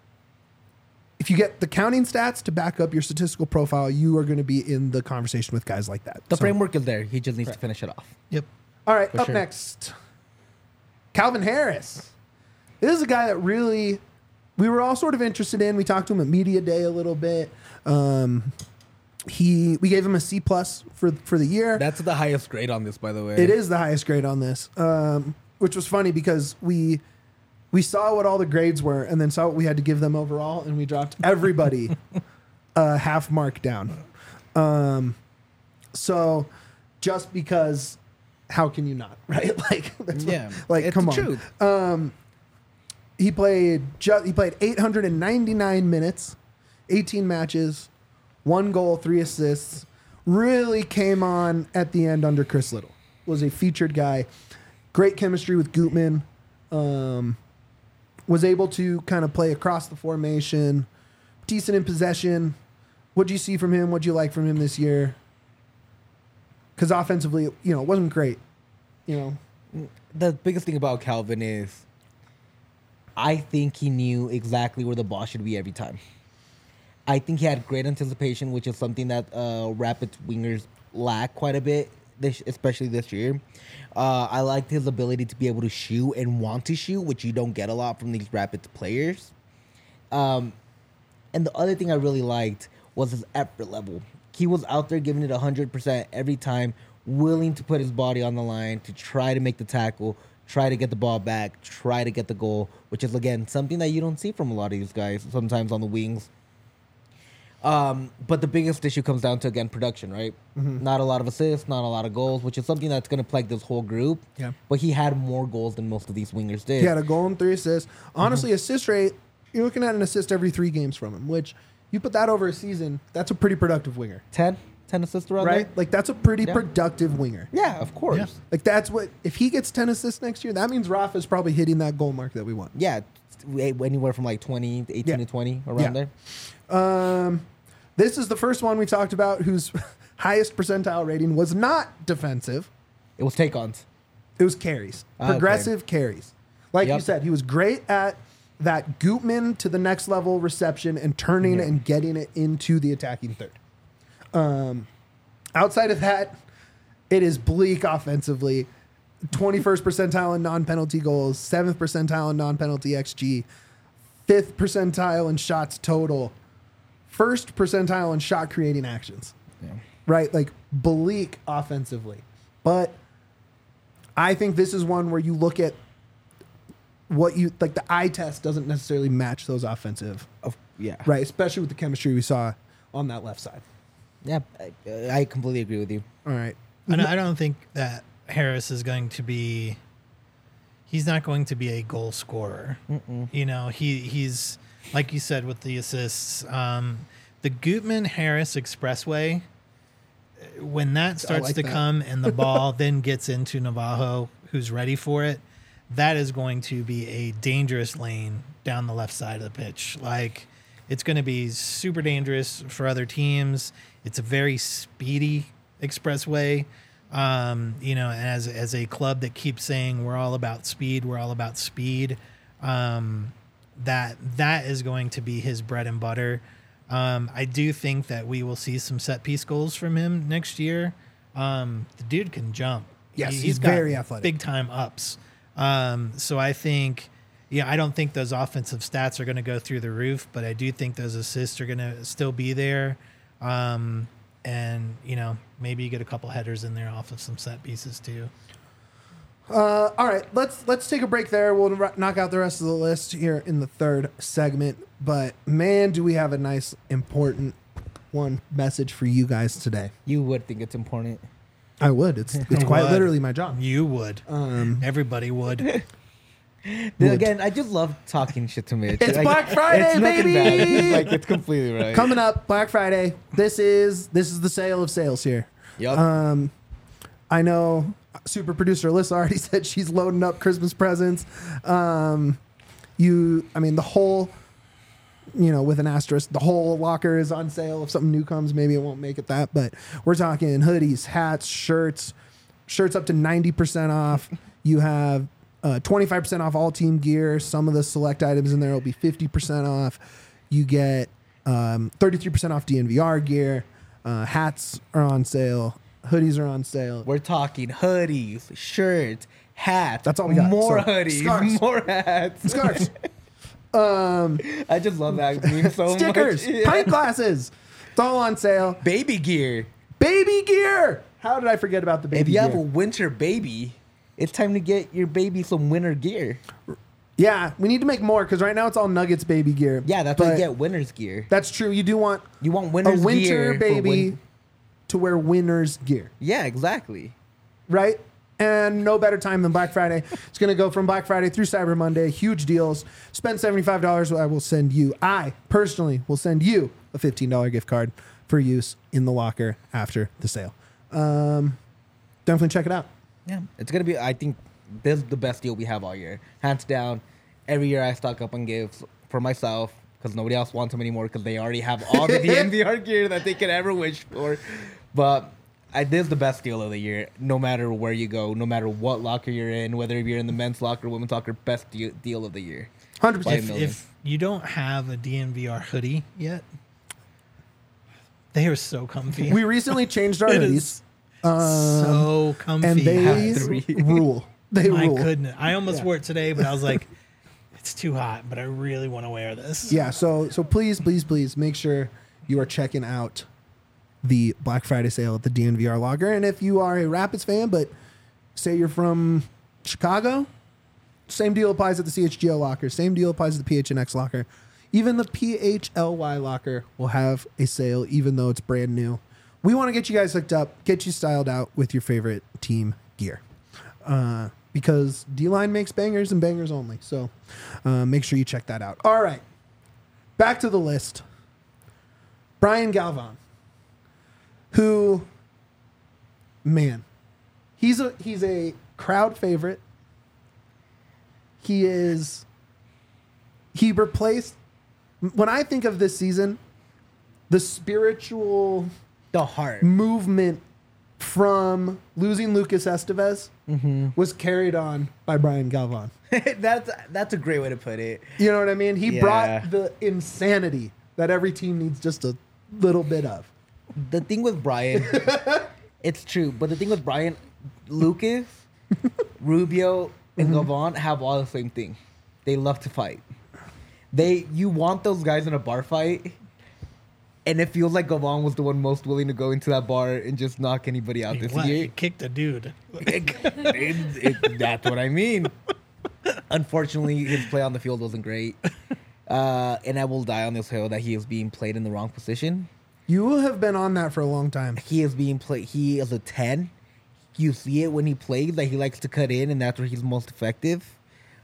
if you get the counting stats to back up your statistical profile, you are going to be in the conversation with guys like that. The So- framework is there. He just needs to finish it off. Yep. All right, For up sure. next, Calvin Harris. This is a guy that really we were all sort of interested in. We talked to him at media day a little bit. Um, he we gave him a C plus for for the year. That's the highest grade on this, by the way. It is the highest grade on this, um, which was funny because we we saw what all the grades were and then saw what we had to give them overall, and we dropped everybody a half mark down. Um, so just because, how can you not, right? Like, that's what- Yeah. like It's come the on. truth. Um, he played ju- he played eight hundred ninety-nine minutes, eighteen matches, one goal, three assists. Really came on at the end under Chris Little. Was a featured guy. Great chemistry with Gutman. Um, was able to kind of play across the formation. Decent in possession. What'd you see from him? What'd you like from him this year? Because offensively, you know, it wasn't great. You know, The biggest thing about Calvin is I think he knew exactly where the ball should be every time. I think he had great anticipation, which is something that uh, Rapids wingers lack quite a bit, this, especially this year. Uh, I liked his ability to be able to shoot and want to shoot, which you don't get a lot from these Rapids players. Um, and the other thing I really liked was his effort level. He was out there giving it one hundred percent every time, willing to put his body on the line to try to make the tackle, try to get the ball back, try to get the goal, which is, again, something that you don't see from a lot of these guys sometimes on the wings. Um, but the biggest issue comes down to, again, production, right? Mm-hmm. Not a lot of assists, not a lot of goals, which is something that's going to plague this whole group. Yeah. But he had more goals than most of these wingers did. He had a goal and three assists. Honestly, assist rate, you're looking at an assist every three games from him, which you put that over a season, that's a pretty productive winger. ten? ten assists around Right? there? Like, that's a pretty Yeah. productive winger. Yeah, of course. Yeah. Like, that's what, if he gets ten assists next year, that means Rafa's probably hitting that goal mark that we want. Yeah. t- Anywhere from like twenty, eighteen Yeah. to twenty, around Yeah. there. Um, this is the first one we talked about whose highest percentile rating was not defensive. It was take-ons. It was carries, Ah, okay. progressive carries. Like you Yep. said, he was great at that Gutman to the next level reception and turning Yeah. and getting it into the attacking third. Um, outside of that, it is bleak offensively. twenty-first percentile in non-penalty goals, seventh percentile in non-penalty X G, fifth percentile in shots total, first percentile in shot creating actions. Yeah. Right? Like bleak offensively. But I think this is one where you look at what you like the eye test doesn't necessarily match those offensive, Of, yeah. right? Especially with the chemistry we saw on that left side. Yeah, I, I completely agree with you. All right. I don't, I don't think that Harris is going to be. He's not going to be a goal scorer. Mm-mm. You know, he he's like you said with the assists. Um, the Gutman Harris Expressway, when that starts like to that. come and the ball then gets into Navajo, who's ready for it, that is going to be a dangerous lane down the left side of the pitch. Like, it's going to be super dangerous for other teams. It's a very speedy expressway. Um, you know, as as a club that keeps saying we're all about speed, we're all about speed. Um, that that is going to be his bread and butter. Um, I do think that we will see some set piece goals from him next year. Um, the dude can jump. Yes, He- he's got very athletic. big time ups. Um, so I think, yeah, I don't think those offensive stats are going to go through the roof, but I do think those assists are going to still be there. Um, and you know, maybe you get a couple headers in there off of some set pieces too. Uh, all right, let's let's take a break there. We'll r- knock out the rest of the list here in the third segment. But man, do we have a nice, important one message for you guys today? You would think it's important. I would. It's it's quite Would. literally my job. You would. Um, Everybody would. Then Would. again, I just love talking shit to Mitch. It's Like, Black Friday, it's nothing bad. baby! It's like it's completely right. coming up, Black Friday. This is this is the sale of sales here. Yep. Um, I know super producer Alyssa already said she's loading up Christmas presents. Um, you, I mean, the whole, you know, with an asterisk, the whole locker is on sale. If something new comes, maybe it won't make it that. But we're talking hoodies, hats, shirts, shirts up to ninety percent off. You have uh, twenty-five percent off all team gear. Some of the select items in there will be fifty percent off. You get um, thirty-three percent off D N V R gear. Uh, hats are on sale. Hoodies are on sale. We're talking hoodies, shirts, hats. That's all we got. More So, hoodies, scarves. more hats. Scarves. um, I just love that meme so stickers. much. Yeah. Pint glasses. It's all on sale. Baby gear. Baby gear. How did I forget about the baby If you gear? have a winter baby, it's time to get your baby some winter gear. yeah, we need to make more because right now it's all Nuggets baby gear. Yeah, that's why But you get winter's gear. That's true. You do want You want a winter's winter gear for baby win- to wear winter's gear, Yeah, exactly. right? And no better time than Black Friday. It's going to go from Black Friday through Cyber Monday. Huge deals. Spend seventy-five dollars. I will send you, I personally will send you a fifteen dollars gift card for use in the locker after the sale. Um, definitely check it out. Yeah, it's gonna be. I think this is the best deal we have all year, hands down. Every year I stock up on gifts for myself because nobody else wants them anymore because they already have all the D N V R gear that they could ever wish for. But I, this is the best deal of the year, no matter where you go, no matter what locker you're in, whether you're in the men's locker, women's locker, best deal, deal of the year. one hundred By a percent. If, million. if you don't have a D N V R hoodie yet, they are so comfy. We recently changed our It hoodies, is so comfy. and they Have three. rule. They My rule. goodness. I almost Yeah. wore it today, but I was like, it's too hot, but I really want to wear this. Yeah, so so please, please, please make sure you are checking out the Black Friday sale at the D N V R Locker. And if you are a Rapids fan, but say you're from Chicago, same deal applies at the C H G O Locker. Same deal applies at the P H N X Locker. Even the P H L Y locker will have a sale, even though it's brand new. We want to get you guys hooked up, get you styled out with your favorite team gear. Uh, because D-Line makes bangers and bangers only. So uh, make sure you check that out. All right. Back to the list. Brian Galvan, who, man, he's a he's a crowd favorite. He is, he replaced, when I think of this season, the spiritual The heart. movement from losing Lucas Estevez was carried on by Brian Galvan. that's that's a great way to put it. You know what I mean? He Yeah. brought the insanity that every team needs just a little bit of. The thing with Brian, it's true, but the thing with Brian, Lucas, Rubio, and Gavon have all the same thing. They love to fight. They you want those guys in a bar fight, and it feels like Gavon was the one most willing to go into that bar and just knock anybody out He, this what? year. He kicked a dude. It- it- that's what I mean. Unfortunately, his play on the field wasn't great. Uh, and I will die on this hill that he is being played in the wrong position. You have been on that for a long time. He is being played. He is a ten. You see it when he plays that he likes to cut in, and that's where he's most effective.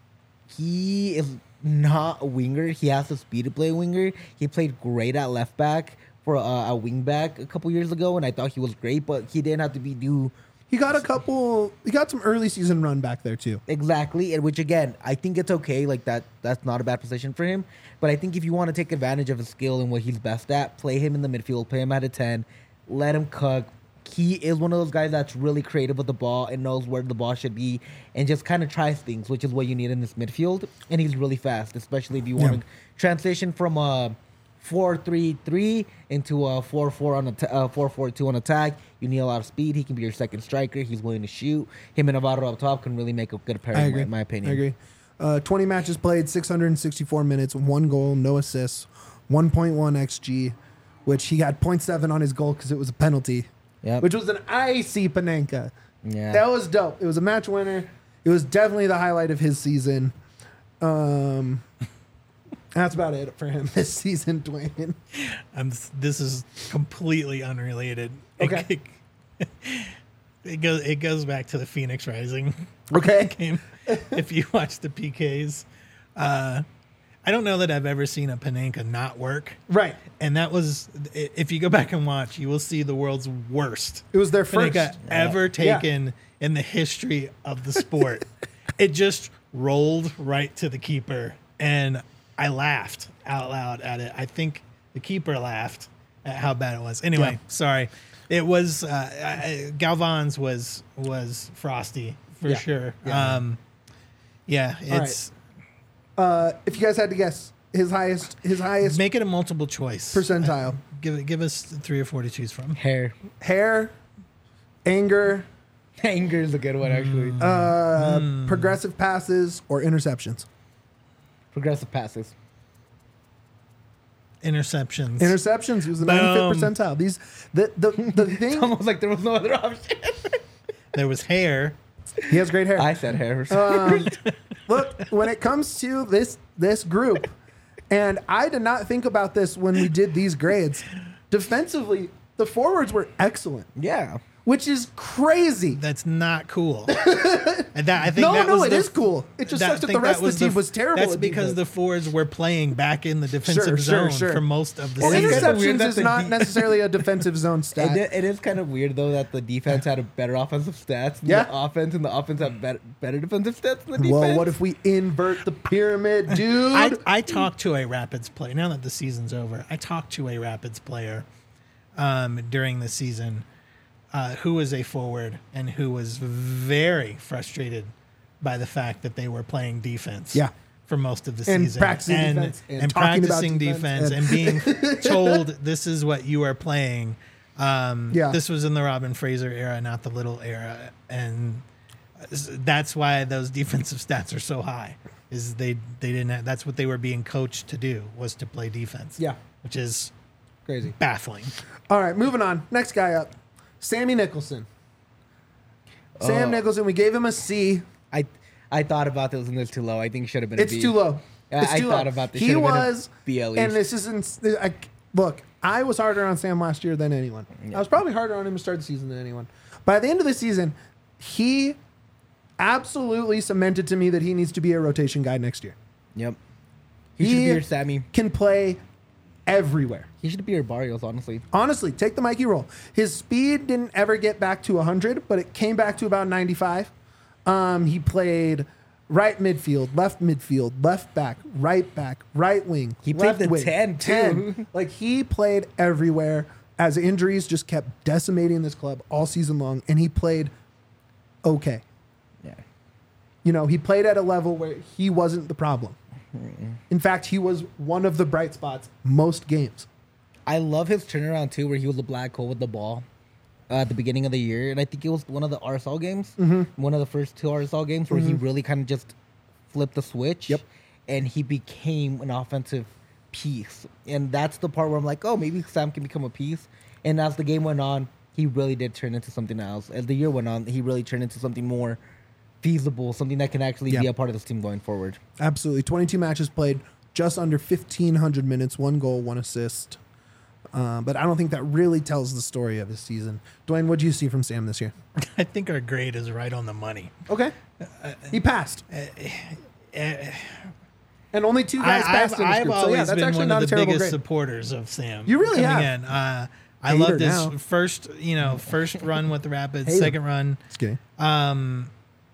He is not a winger. He has the speed to play a winger. He played great at left back for uh, a wing back a couple years ago, and I thought he was great, but he didn't have to be do He got a couple, he got some early season run back there too. exactly. And which again, I think it's okay. Like that, that's not a bad position for him. But I think if you want to take advantage of his skill and what he's best at, play him in the midfield, play him at a ten, let him cook. He is one of those guys that's really creative with the ball and knows where the ball should be and just kind of tries things, which is what you need in this midfield. And he's really fast, especially if you want Yeah. to transition from a four three three into a four four on a t- uh, four four two on attack. You need a lot of speed. He can be your second striker. He's willing to shoot. Him and Navarro up top can really make a good pairing, I agree. in my opinion. I agree. Uh, twenty matches played, six hundred sixty-four minutes, one goal, no assists, one point one X G, which he had point seven on his goal because it was a penalty, Yep. which was an icy Panenka. Yeah. That was dope. It was a match winner. It was definitely the highlight of his season. Um, that's about it for him this season, Dwayne. I'm, this is completely unrelated. Okay. It, it goes it goes back to the Phoenix Rising Okay. game. If you watch the P Ks, uh, I don't know that I've ever seen a Panenka not work. Right. And that was, i- if you go back and watch, you will see the world's worst It was their first. Panenka ever Yeah. taken in the history of the sport. It just rolled right to the keeper, and I laughed out loud at it. I think the keeper laughed at how bad it was. Anyway, Yeah. sorry. It was uh, I- Galvan's was was frosty for Yeah. sure. Yeah. Um, yeah, right. it's Uh, if you guys had to guess, his highest, his highest make it a multiple choice percentile: Give it, give us three or four to choose from. Hair. hair, anger, Anger is a good one, actually. uh, Hmm. progressive passes, or interceptions. Progressive passes. Interceptions. Interceptions. He was the Boom. ninety-fifth percentile. These the the the It's thing. almost like there was no other option. There was hair. He has great hair. I said hair. Um, look, when it comes to this this group, and I did not think about this when we did these grades. Defensively, the forwards were excellent, yeah. which is crazy. That's not cool. And that, I think No, that no, was it the- is cool. It just that- sucks I that think the rest of was the team f- was terrible. That's at because the defense. forwards were playing back in the defensive Sure, sure, zone sure. for most of the Well, It is season. kinda weird interceptions that is the not de- necessarily a defensive zone It, stat. i- it is kind of weird though that the defense had a better offensive stats than Yeah. the offense, and the offense had better, better defensive stats than the defense. Well, what if we invert the pyramid, dude? I, I talked to a Rapids player. Now that the season's over, I talked to a Rapids player um, during the season uh, who was a forward and who was very frustrated by the fact that they were playing defense. Yeah. For most of the And season, practicing and, defense and and talking about practicing defense defense, and- and, being told this is what you are playing. Um, Yeah. This was in the Robin Fraser era, not the Little era, and that's why those defensive stats are so high. Is they they didn't have, that's what they were being coached to do, was to play defense. Yeah. Which is Crazy. baffling. All right, moving on. Next guy up, Sammy Nicholson. Sam Oh. Nicholson. We gave him a C. I I thought about this and it's too low. I think it should have been. It's a B. too low. Yeah, It's I too thought low. about this. He Should've been a was, B at least. and this isn't. I, look, I was harder on Sam last year than anyone. Yeah. I was probably harder on him to start the season than anyone. By the end of the season, he absolutely cemented to me that he needs to be a rotation guy next year. Yep. He, should He- be your Sammy. Can play everywhere. He should be your Barrios, honestly. Honestly, take the Mikey role. His speed didn't ever get back to one hundred, but it came back to about ninety-five. Um, he played right midfield, left midfield, left back, right back, right wing. He played left the wing, ten, too. ten. Like he played everywhere as injuries just kept decimating this club all season long, and he played okay. Yeah. You know, he played at a level where he wasn't the problem. In fact, he was one of the bright spots most games. I love his turnaround too, where he was a black hole with the ball uh, at the beginning of the year, and I think it was one of the R S L games, Mm-hmm. one of the first two R S L games, where he really kind of just flipped the switch. Yep. And he became an offensive piece, and that's the part where I'm like, oh, maybe Sam can become a piece. And as the game went on, he really did turn into something else. As the year went on, he really turned into something more feasible, something that can actually Yeah. be a part of this team going forward. Absolutely. twenty-two matches played, just under fifteen hundred minutes, one goal, one assist. Uh, but I don't think that really tells the story of his season. Dwayne, what do you see from Sam this year? I think our grade is right on the money. Okay. He passed. Eh, And only two guys I, passed I've, in this I've group. So always yeah, that's been actually one not of a the terrible biggest grade. supporters of Sam. You really coming have. in. Uh, I Hater love this now. first, you know, first run with the Rapids, Hater. second run. Just kidding. Um,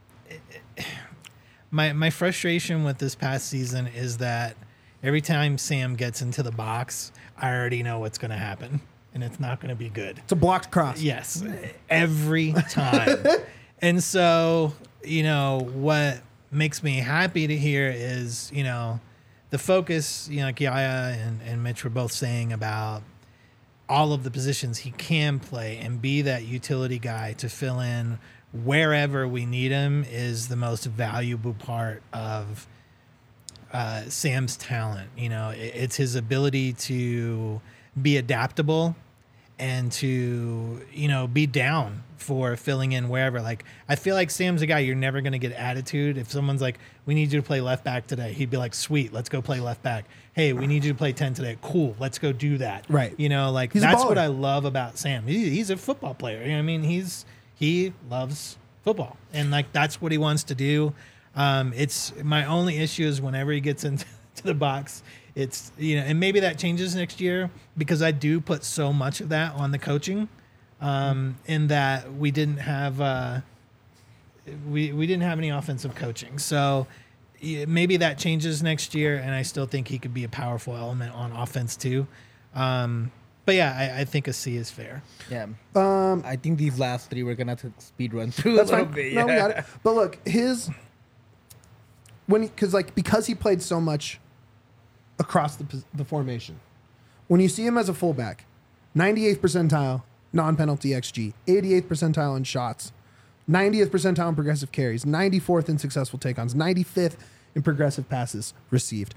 my my frustration with this past season is that every time Sam gets into the box, I already know what's going to happen, and it's not going to be good. It's a blocked cross. Yes, every time. And so, you know, what makes me happy to hear is, you know, the focus, you know, like Yaya and, and Mitch were both saying about all of the positions he can play and be that utility guy to fill in wherever we need him is the most valuable part of uh, Sam's talent. You know, it, it's his ability to be adaptable and to, you know, be down for filling in wherever. Like, I feel like Sam's a guy you're never going to get attitude. If someone's like, we need you to play left back today, he'd be like, sweet, let's go play left back. Hey, we need you to play ten today. Cool, let's go do that. Right. You know, like, He's a that's baller. what I love about Sam. He, he's a football player. You know what I mean? He's, he loves football. And, like, that's what he wants to do. Um, it's my only issue is whenever he gets into to the box, it's, you know, and maybe that changes next year because I do put so much of that on the coaching, um, in that we didn't have, uh, we, we didn't have any offensive coaching. So yeah, maybe that changes next year. And I still think he could be a powerful element on offense too. Um, but yeah, I, I think a C is fair. Yeah. Um, I think these last three we're gonna have to speed run through That's a little fine. bit. No, we yeah. got it. But look, his when because like because he played so much across the pos- the formation. When you see him as a fullback, ninety-eighth percentile non-penalty X G, eighty-eighth percentile in shots, ninetieth percentile in progressive carries, ninety-fourth in successful take-ons, ninety-fifth in progressive passes received.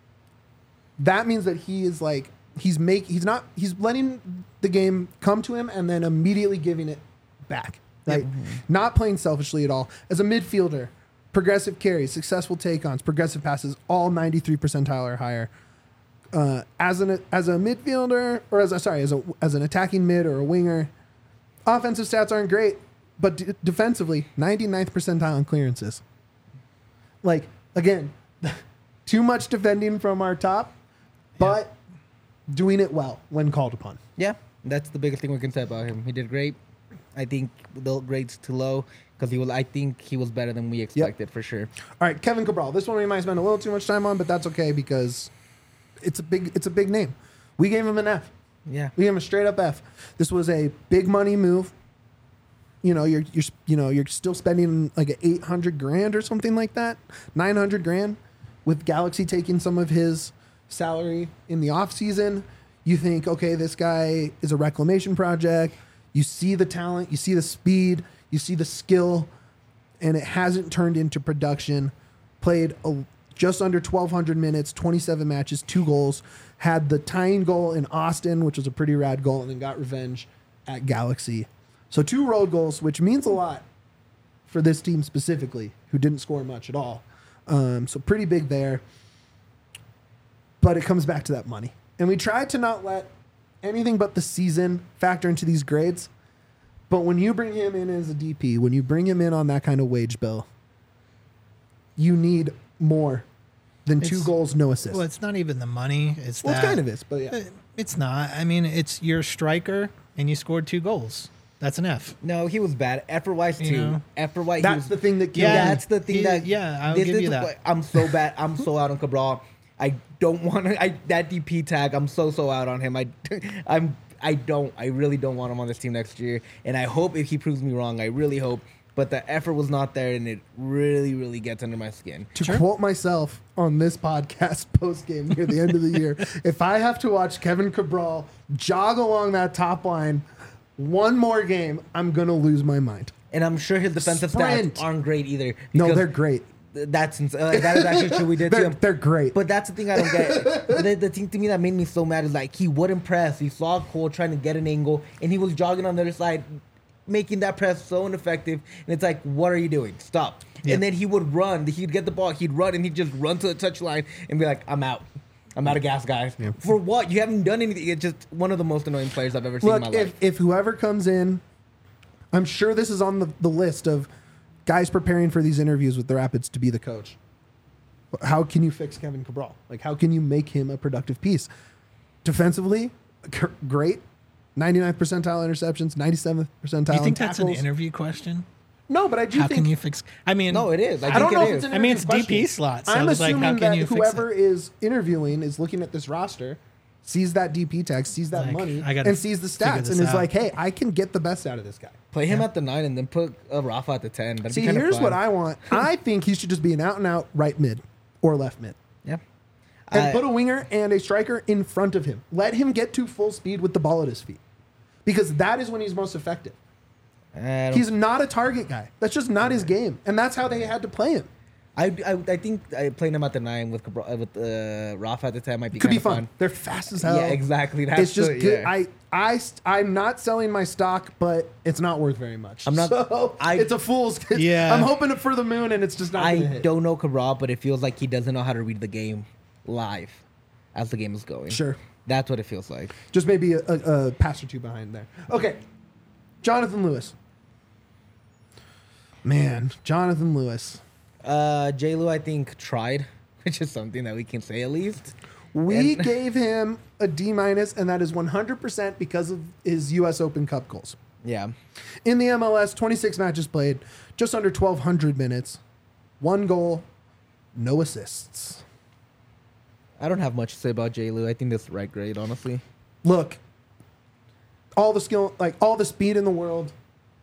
That means that he is like he's make he's not he's letting the game come to him and then immediately giving it back. Right? Not playing selfishly at all. As a midfielder, progressive carries, successful take-ons, progressive passes, all ninety-three percentile or higher. Uh, as an as a midfielder, or as a sorry, as a as an attacking mid or a winger, offensive stats aren't great, but d- defensively, ninety-ninth percentile in clearances. Like again, too much defending from our top, but doing it well when called upon. Yeah, that's the biggest thing we can say about him. He did great. I think the grade's too low because he was. I think he was better than we expected for sure. All right, Kevin Cabral. This one we might spend a little too much time on, but that's okay because it's a big it's a big name. We gave him an F. Yeah. We gave him a straight up F. This was a big money move. You know, you're you're you know you're still spending like a eight hundred grand or something like that, nine hundred grand, with Galaxy taking some of his salary in the off season. You think, okay, this guy is a reclamation project. You see the talent, you see the speed, you see the skill, and it hasn't turned into production. Played a, just under twelve hundred minutes, twenty-seven matches, two goals. Had the tying goal in Austin, which was a pretty rad goal, and then got revenge at Galaxy. So two road goals, which means a lot for this team specifically. who didn't score much at all. Um, so pretty big there. But it comes back to that money. And we tried to not let anything but the season factor into these grades. But when you bring him in as a D P, when you bring him in on that kind of wage bill, you need more than two It's- goals, no assists. Well, it's not even the money. It's Well, it that, kind of is, but yeah. Uh, It's not. I mean, it's your striker, and you scored two goals. That's an F. No, he was bad. Effort wise You too. know? Effort wise, That's the thing that kills Yeah. me. That's the thing He- that. yeah, I'll this give is you the- that. I'm so bad. I'm so out on Cabral. I don't want to. I that D P tag. I'm so so out on him. I, I'm. I don't. I really don't want him on this team next year. And I hope if he proves me wrong, I really hope. But the effort was not there, and it really, really gets under my skin. To Sure. quote myself on this podcast post game near the end of the year, if I have to watch Kevin Cabral jog along that top line one more game, I'm gonna lose my mind. And I'm sure his defensive Sprint. stats aren't great either. No, because they're great. th- That's ins- uh, that is actually true. We did to They're, him. they're great. But that's the thing I don't get. the, the thing to me that made me so mad is like he wouldn't press. He saw Cole trying to get an angle, and he was jogging on the other side, making that press so ineffective. And it's like, what are you doing? Stop. Yeah. And then he would run. He'd get the ball. He'd run, and he'd just run to the touchline and be like, I'm out. I'm out of gas, guys. Yeah. For what? You haven't done anything. It's just one of the most annoying players I've ever seen in Look, my if, life. if whoever comes in, I'm sure this is on the, the list of guys preparing for these interviews with the Rapids to be the coach. How can you fix Kevin Cabral? Like, how can you make him a productive piece? Defensively, g- great. ninety-ninth percentile interceptions, ninety-seventh percentile Do you think in that's an tackles. interview question? No, but I do How think can you fix? I mean, No, it is. I, I, think don't know it if is. it's an I mean, interview it's D P question. slot, so I'm it's like, assuming how can that you fix whoever it? is interviewing is looking at this roster, sees that D P tag, sees that Like, money, I gotta and sees the figure stats, this and is out. like, "Hey, I can get the best out of this guy." Play him Yeah. at the nine and then put uh, Rafa at the ten. That'd See, be kinda here's fun. what I want. I think he should just be an out and out right mid or left mid. Yeah. And I- put a winger and a striker in front of him. Let him get to full speed with the ball at his feet. Because that is when he's most effective. I don't- He's not a target guy. That's just not his game. And that's how they had to play him. I, I, I think I playing him at the nine with Cabral- uh, with uh, Rafa at the ten might be Could be kinda fun. They're fast as hell. Yeah, exactly. That's it's just the- good. yeah. I, I, st- I'm not selling my stock, but it's not worth very much. I'm not- So I- it's a fool's. It's, Yeah. I'm hoping for the moon, and it's just not. I gonna hit. don't know Cabral, but it feels like he doesn't know how to read the game live as the game is going. Sure. That's what it feels like. Just maybe a, a, a pass or two behind there. Okay, Jonathan Lewis. Man, Jonathan Lewis. Uh, J. Lou, I think, tried, which is something that we can say at least. We And- gave him a D minus, and that is one hundred percent because of his U S Open Cup goals. Yeah. In the M L S, twenty-six matches played, just under twelve hundred minutes, one goal, no assists. I don't have much to say about J. Lou. I think that's the right grade, honestly. Look, all the skill, like all the speed in the world,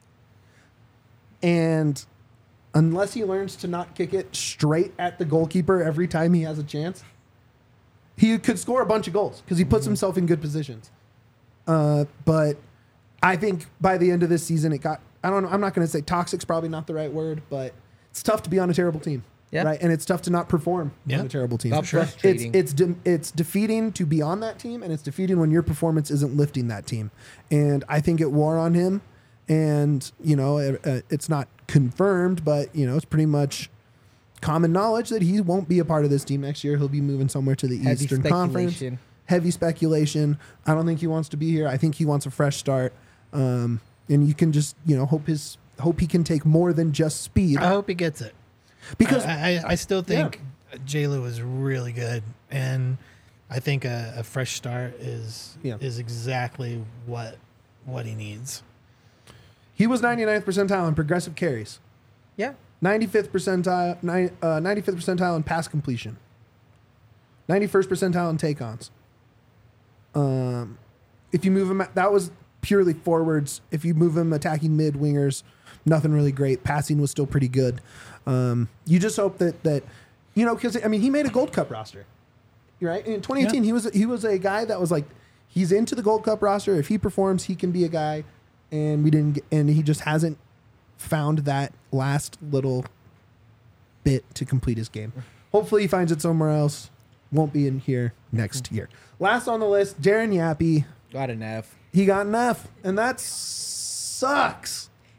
and unless he learns to not kick it straight at the goalkeeper every time he has a chance, he could score a bunch of goals because he puts himself in good positions. Uh, but I think by the end of this season, it got, I don't know, I'm not going to say toxic's probably not the right word, but it's tough to be on a terrible team. Yeah. Right. And it's tough to not perform Yeah. on a terrible team. Got sure. It's frustrating. it's de- it's defeating to be on that team, and it's defeating when your performance isn't lifting that team. And I think it wore on him. And you know, it, uh, it's not confirmed, but you know, it's pretty much common knowledge that he won't be a part of this team next year. He'll be moving somewhere to the Heavy Eastern Conference. speculation. Heavy speculation. I don't think he wants to be here. I think he wants a fresh start. Um, and you can just you know hope his hope he can take more than just speed I hope he gets it. because I, I, I still think J. Lou is really good, and I think a, a fresh start is Yeah. is exactly what what he needs. he was ninety-ninth percentile in progressive carries. Yeah. ninety-fifth percentile, ni- uh, ninety-fifth percentile in pass completion. ninety-first percentile in take-ons. Um, if you move him, that was purely forwards. If you move him attacking mid wingers, nothing really great. Passing was still pretty good. Um, you just hope that that you know because I mean he made a Gold Cup roster, right? In twenty eighteen, Yeah. he was he was a guy that was like he's into the Gold Cup roster. If he performs, he can be a guy. And we didn't, get, and he just hasn't found that last little bit to complete his game. Hopefully, he finds it somewhere else. Won't be in here next year. Last on the list, Darren Yappy. Got an F. He got an F, and that sucks.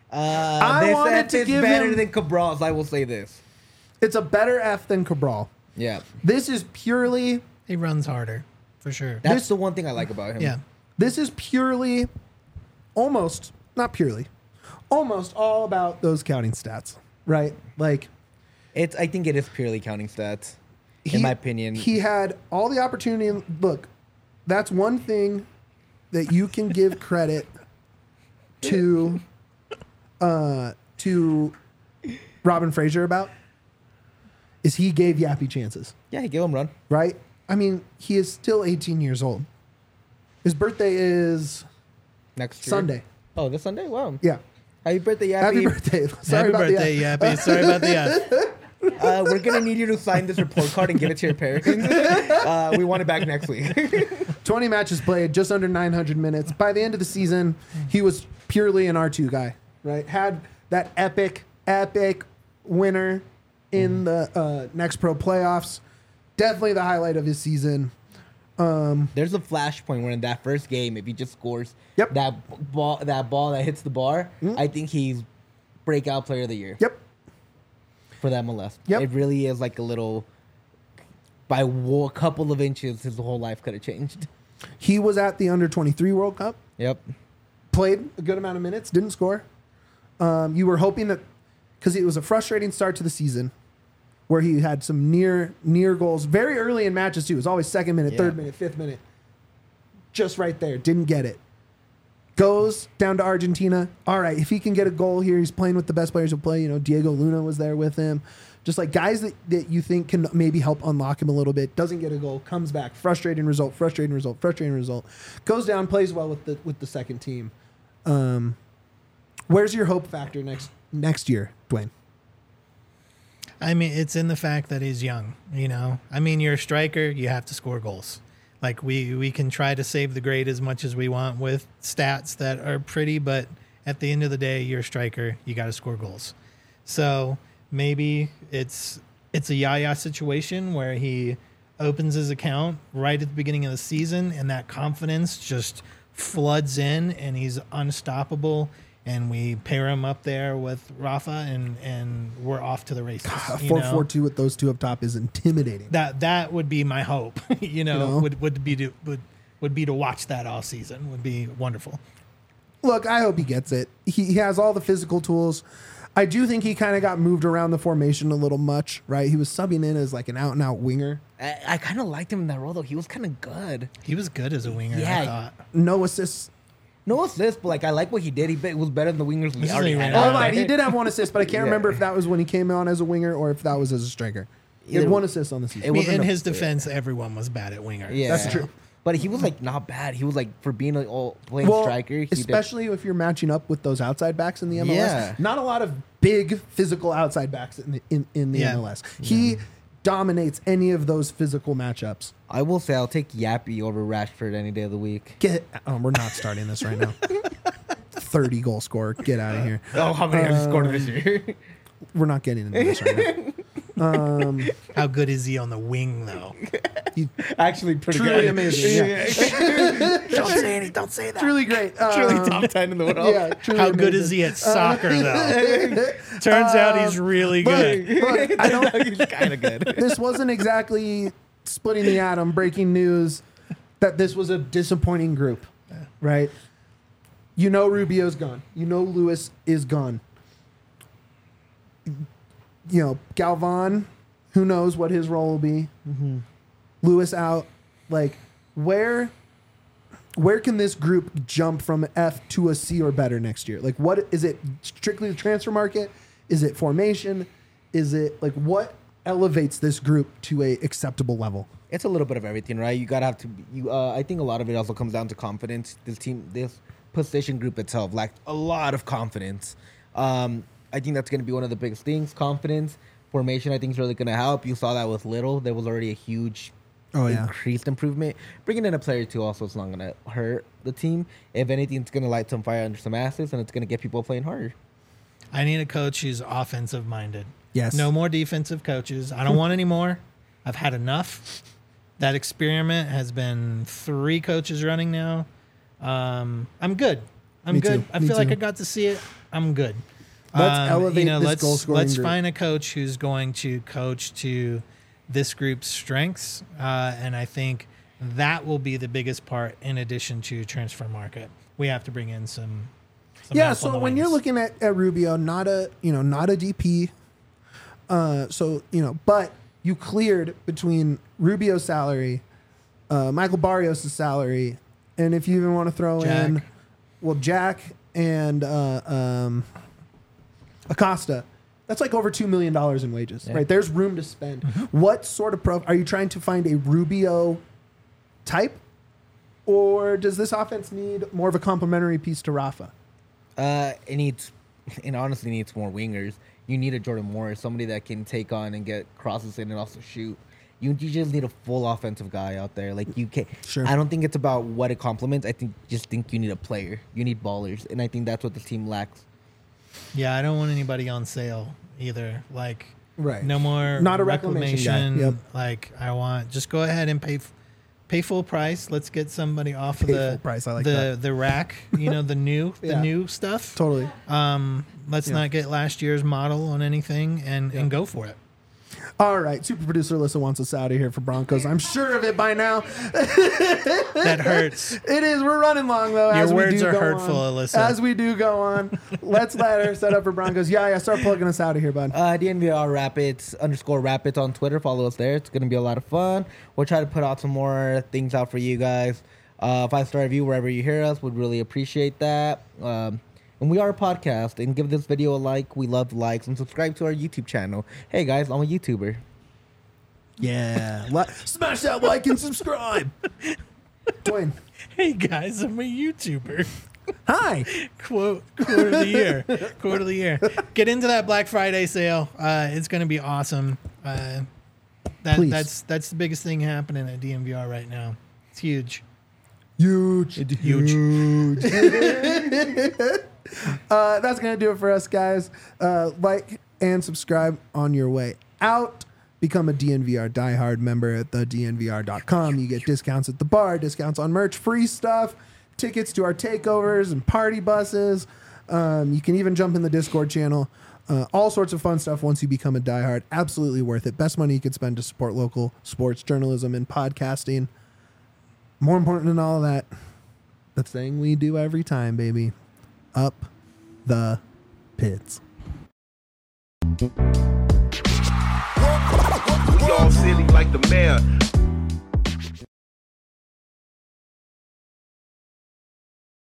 Uh, I this wanted F to is give better him- than Cabral's. I will say this. It's a better F than Cabral. Yeah, This is purely He runs harder, for sure. that's This- the one thing I like about him. Yeah. this is purely almost not purely almost all about those counting stats, right? Like it's. I think it is purely counting stats, he, in my opinion. he had all the opportunity. Look, that's one thing that you can give credit to uh to Robin Fraser about is he gave Yappy chances, yeah, he gave him run. right? I mean, he is still eighteen years old. His birthday is Next year. Sunday. Oh, this Sunday. Wow. Yeah. Happy birthday, Yappy. Happy birthday. Sorry Happy about birthday, the Yappy. Sorry about the F. Uh, we're gonna need you to sign this report card and give it to your parents. Uh, we want it back next week. twenty matches played, just under nine hundred minutes. By the end of the season, he was purely an R two guy, right? Had that epic, epic winner in the uh, Next Pro playoffs. Definitely the highlight of his season. There's a flashpoint where in that first game, if he just scores Yep. that ball, that ball that hits the bar, I think he's breakout player of the year Yep. for that M L S. Yep. It really is like a little. By a couple of inches, his whole life could have changed. He was at the under twenty-three World Cup. Yep. Played a good amount of minutes, didn't score. Um, you were hoping that because it was a frustrating start to the season, where he had some near near goals very early in matches too. It was always second minute, Yeah. third minute, fifth minute, just right there. Didn't get it. Goes down to Argentina. All right, if he can get a goal here, he's playing with the best players who play. You know, Diego Luna was there with him. Just like guys that, that you think can maybe help unlock him a little bit. Doesn't get a goal, comes back, frustrating result, frustrating result, frustrating result. Goes down, plays well with the with the second team. Um, where's your hope factor next next year, Dwayne? I mean, it's in the fact that he's young, you know? I mean, you're a striker, you have to score goals. Like, we, we can try to save the grade as much as we want with stats that are pretty, but at the end of the day, you're a striker, you got to score goals. So maybe it's it's a Yaya situation where he opens his account right at the beginning of the season and that confidence just floods in and he's unstoppable. And we pair him up there with Rafa, and, and we're off to the races. A you four know? four two with those two up top is intimidating. That that would be my hope. you, know, know? would would be to would would be to watch that all season. Would be wonderful. Look, I hope he gets it. He, he has all the physical tools. I do think he kind of got moved around the formation a little much, right? He was subbing in as like an out and out winger. I, I kind of liked him in that role though. He was kind of good. He was good as a winger. Yeah. I thought. No assists. No assist, but like I like what he did. He be- was better than the wingers we This is already a had. winger. Oh, right. He did have one assist, but I can't Yeah. remember if that was when he came on as a winger or if that was as a striker. He had Either- one assist on the It season. I mean, wasn't in a- his defense, everyone was bad at winger. Yeah, That's true. But he was like not bad. He was like for being a all playing Well, striker. He did- especially if you're matching up with those outside backs in the M L S. Yeah. Not a lot of big physical outside backs in the, in, in the Yeah. M L S. He dominates any of those physical matchups. I will say I'll take Yappy over Rashford any day of the week. Get. Oh, we're not starting this right now. thirty goal scorer. Get out of here. Oh, how many has he scored this year? We're not getting into this right now. How good is he on the wing, though? Actually, pretty Truly good. amazing, yeah. Don't say any. Don't say that. Truly great. Truly Um, top ten in the world. yeah, truly How good amazing. is he at soccer, though? Turns out he's really good. Look, I don't. He's kind of good. This wasn't exactly splitting the atom. Breaking news that this was a disappointing group, right? You know Rubio's gone. You know Lewis is gone. You know Galvan. Who knows what his role will be? Lewis out. Like where? Where can this group jump from F to a C or better next year? Like, what is it? Strictly the transfer market? Is it formation? Is it like what elevates this group to a acceptable level? It's a little bit of everything, right? You gotta have to. You, uh, I think a lot of it also comes down to confidence. This team, this position group itself, lacked a lot of confidence. Um, I think that's gonna be one of the biggest things. Confidence, formation. I think is really gonna help. You saw that with Little. There was already a huge, Oh, yeah. increased improvement. Bringing in a player too also is not gonna hurt the team. If anything, it's gonna light some fire under some asses, and it's gonna get people playing harder. I need a coach who's offensive minded. Yes. No more defensive coaches. I don't want any more. I've had enough. That experiment has been three coaches running now. Um, I'm good. I'm Me good. too. I Me feel like too. I got to see it. I'm good. Let's Um, elevate you know, this let's, goal-scoring Let's group. find a coach who's going to coach to this group's strengths, uh, and I think that will be the biggest part. In addition to transfer market, we have to bring in some. some Yeah, help on so the when you're wings. looking at, at Rubio, not a you know not a D P, uh, so you know, but you cleared between Rubio's salary, uh, Michael Barrios' salary, and if you even want to throw in, Jack. well, Jack and uh, um, Acosta, that's like over two million dollars in wages, Yeah. right? There's room to spend. What sort of pro are you trying to find a Rubio type, or does this offense need more of a complementary piece to Rafa? Uh, it needs, it honestly needs more wingers. You need a Jordan Morris, somebody that can take on and get crosses in and also shoot. You, you just need a full offensive guy out there. Like you can. Sure. I don't think it's about what it complements. I think just think you need a player. You need ballers, and I think that's what the team lacks. Yeah, I don't want anybody on sale either. Like, Right. no more Not a reclamation guy. reclamation. Yep. Like, I want just go ahead and pay, f- pay full price. Let's get somebody off Pay of the full price, I like the that. the rack. You know, the new Yeah. the new stuff. Totally. Um, let's Yeah. not get last year's model on anything and and go for it. All right, super producer Alyssa wants us out of here for Broncos. I'm sure of it by now. That hurts. It is. We're running long though. Your as we words do are go hurtful, on. Alyssa. As we do go on, let's let her set up for Broncos. Yeah, yeah. Start plugging us out of here, bud. Uh, D N V R Rapids underscore Rapids on Twitter. Follow us there. It's gonna be a lot of fun. We'll try to put out some more things out for you guys. Uh, five star review wherever you hear us. Would really appreciate that. Um, and we are a podcast. And give this video a like. We love likes and subscribe to our YouTube channel. Hey guys, I'm a YouTuber. Yeah. Li- Smash that like and subscribe. Dwayne. Hey guys, I'm a YouTuber. Hi. quote quote of the year. Quote of the year. Get into that Black Friday sale. Uh, it's going to be awesome. Uh, that, Please. that's that's the biggest thing happening at D M V R right now. It's huge. Huge. Huge. Huge. uh, that's going to do it for us, guys. Uh, like and subscribe on your way out. Become a D N V R diehard member at the D N V R dot com. You get discounts at the bar, discounts on merch, free stuff, tickets to our takeovers and party buses. Um, you can even jump in the Discord channel. Uh, all sorts of fun stuff once you become a diehard. Absolutely worth it. Best money you could spend to support local sports journalism and podcasting. More important than all of that, the thing we do every time, baby. Up the pits. We all silly like the mayor.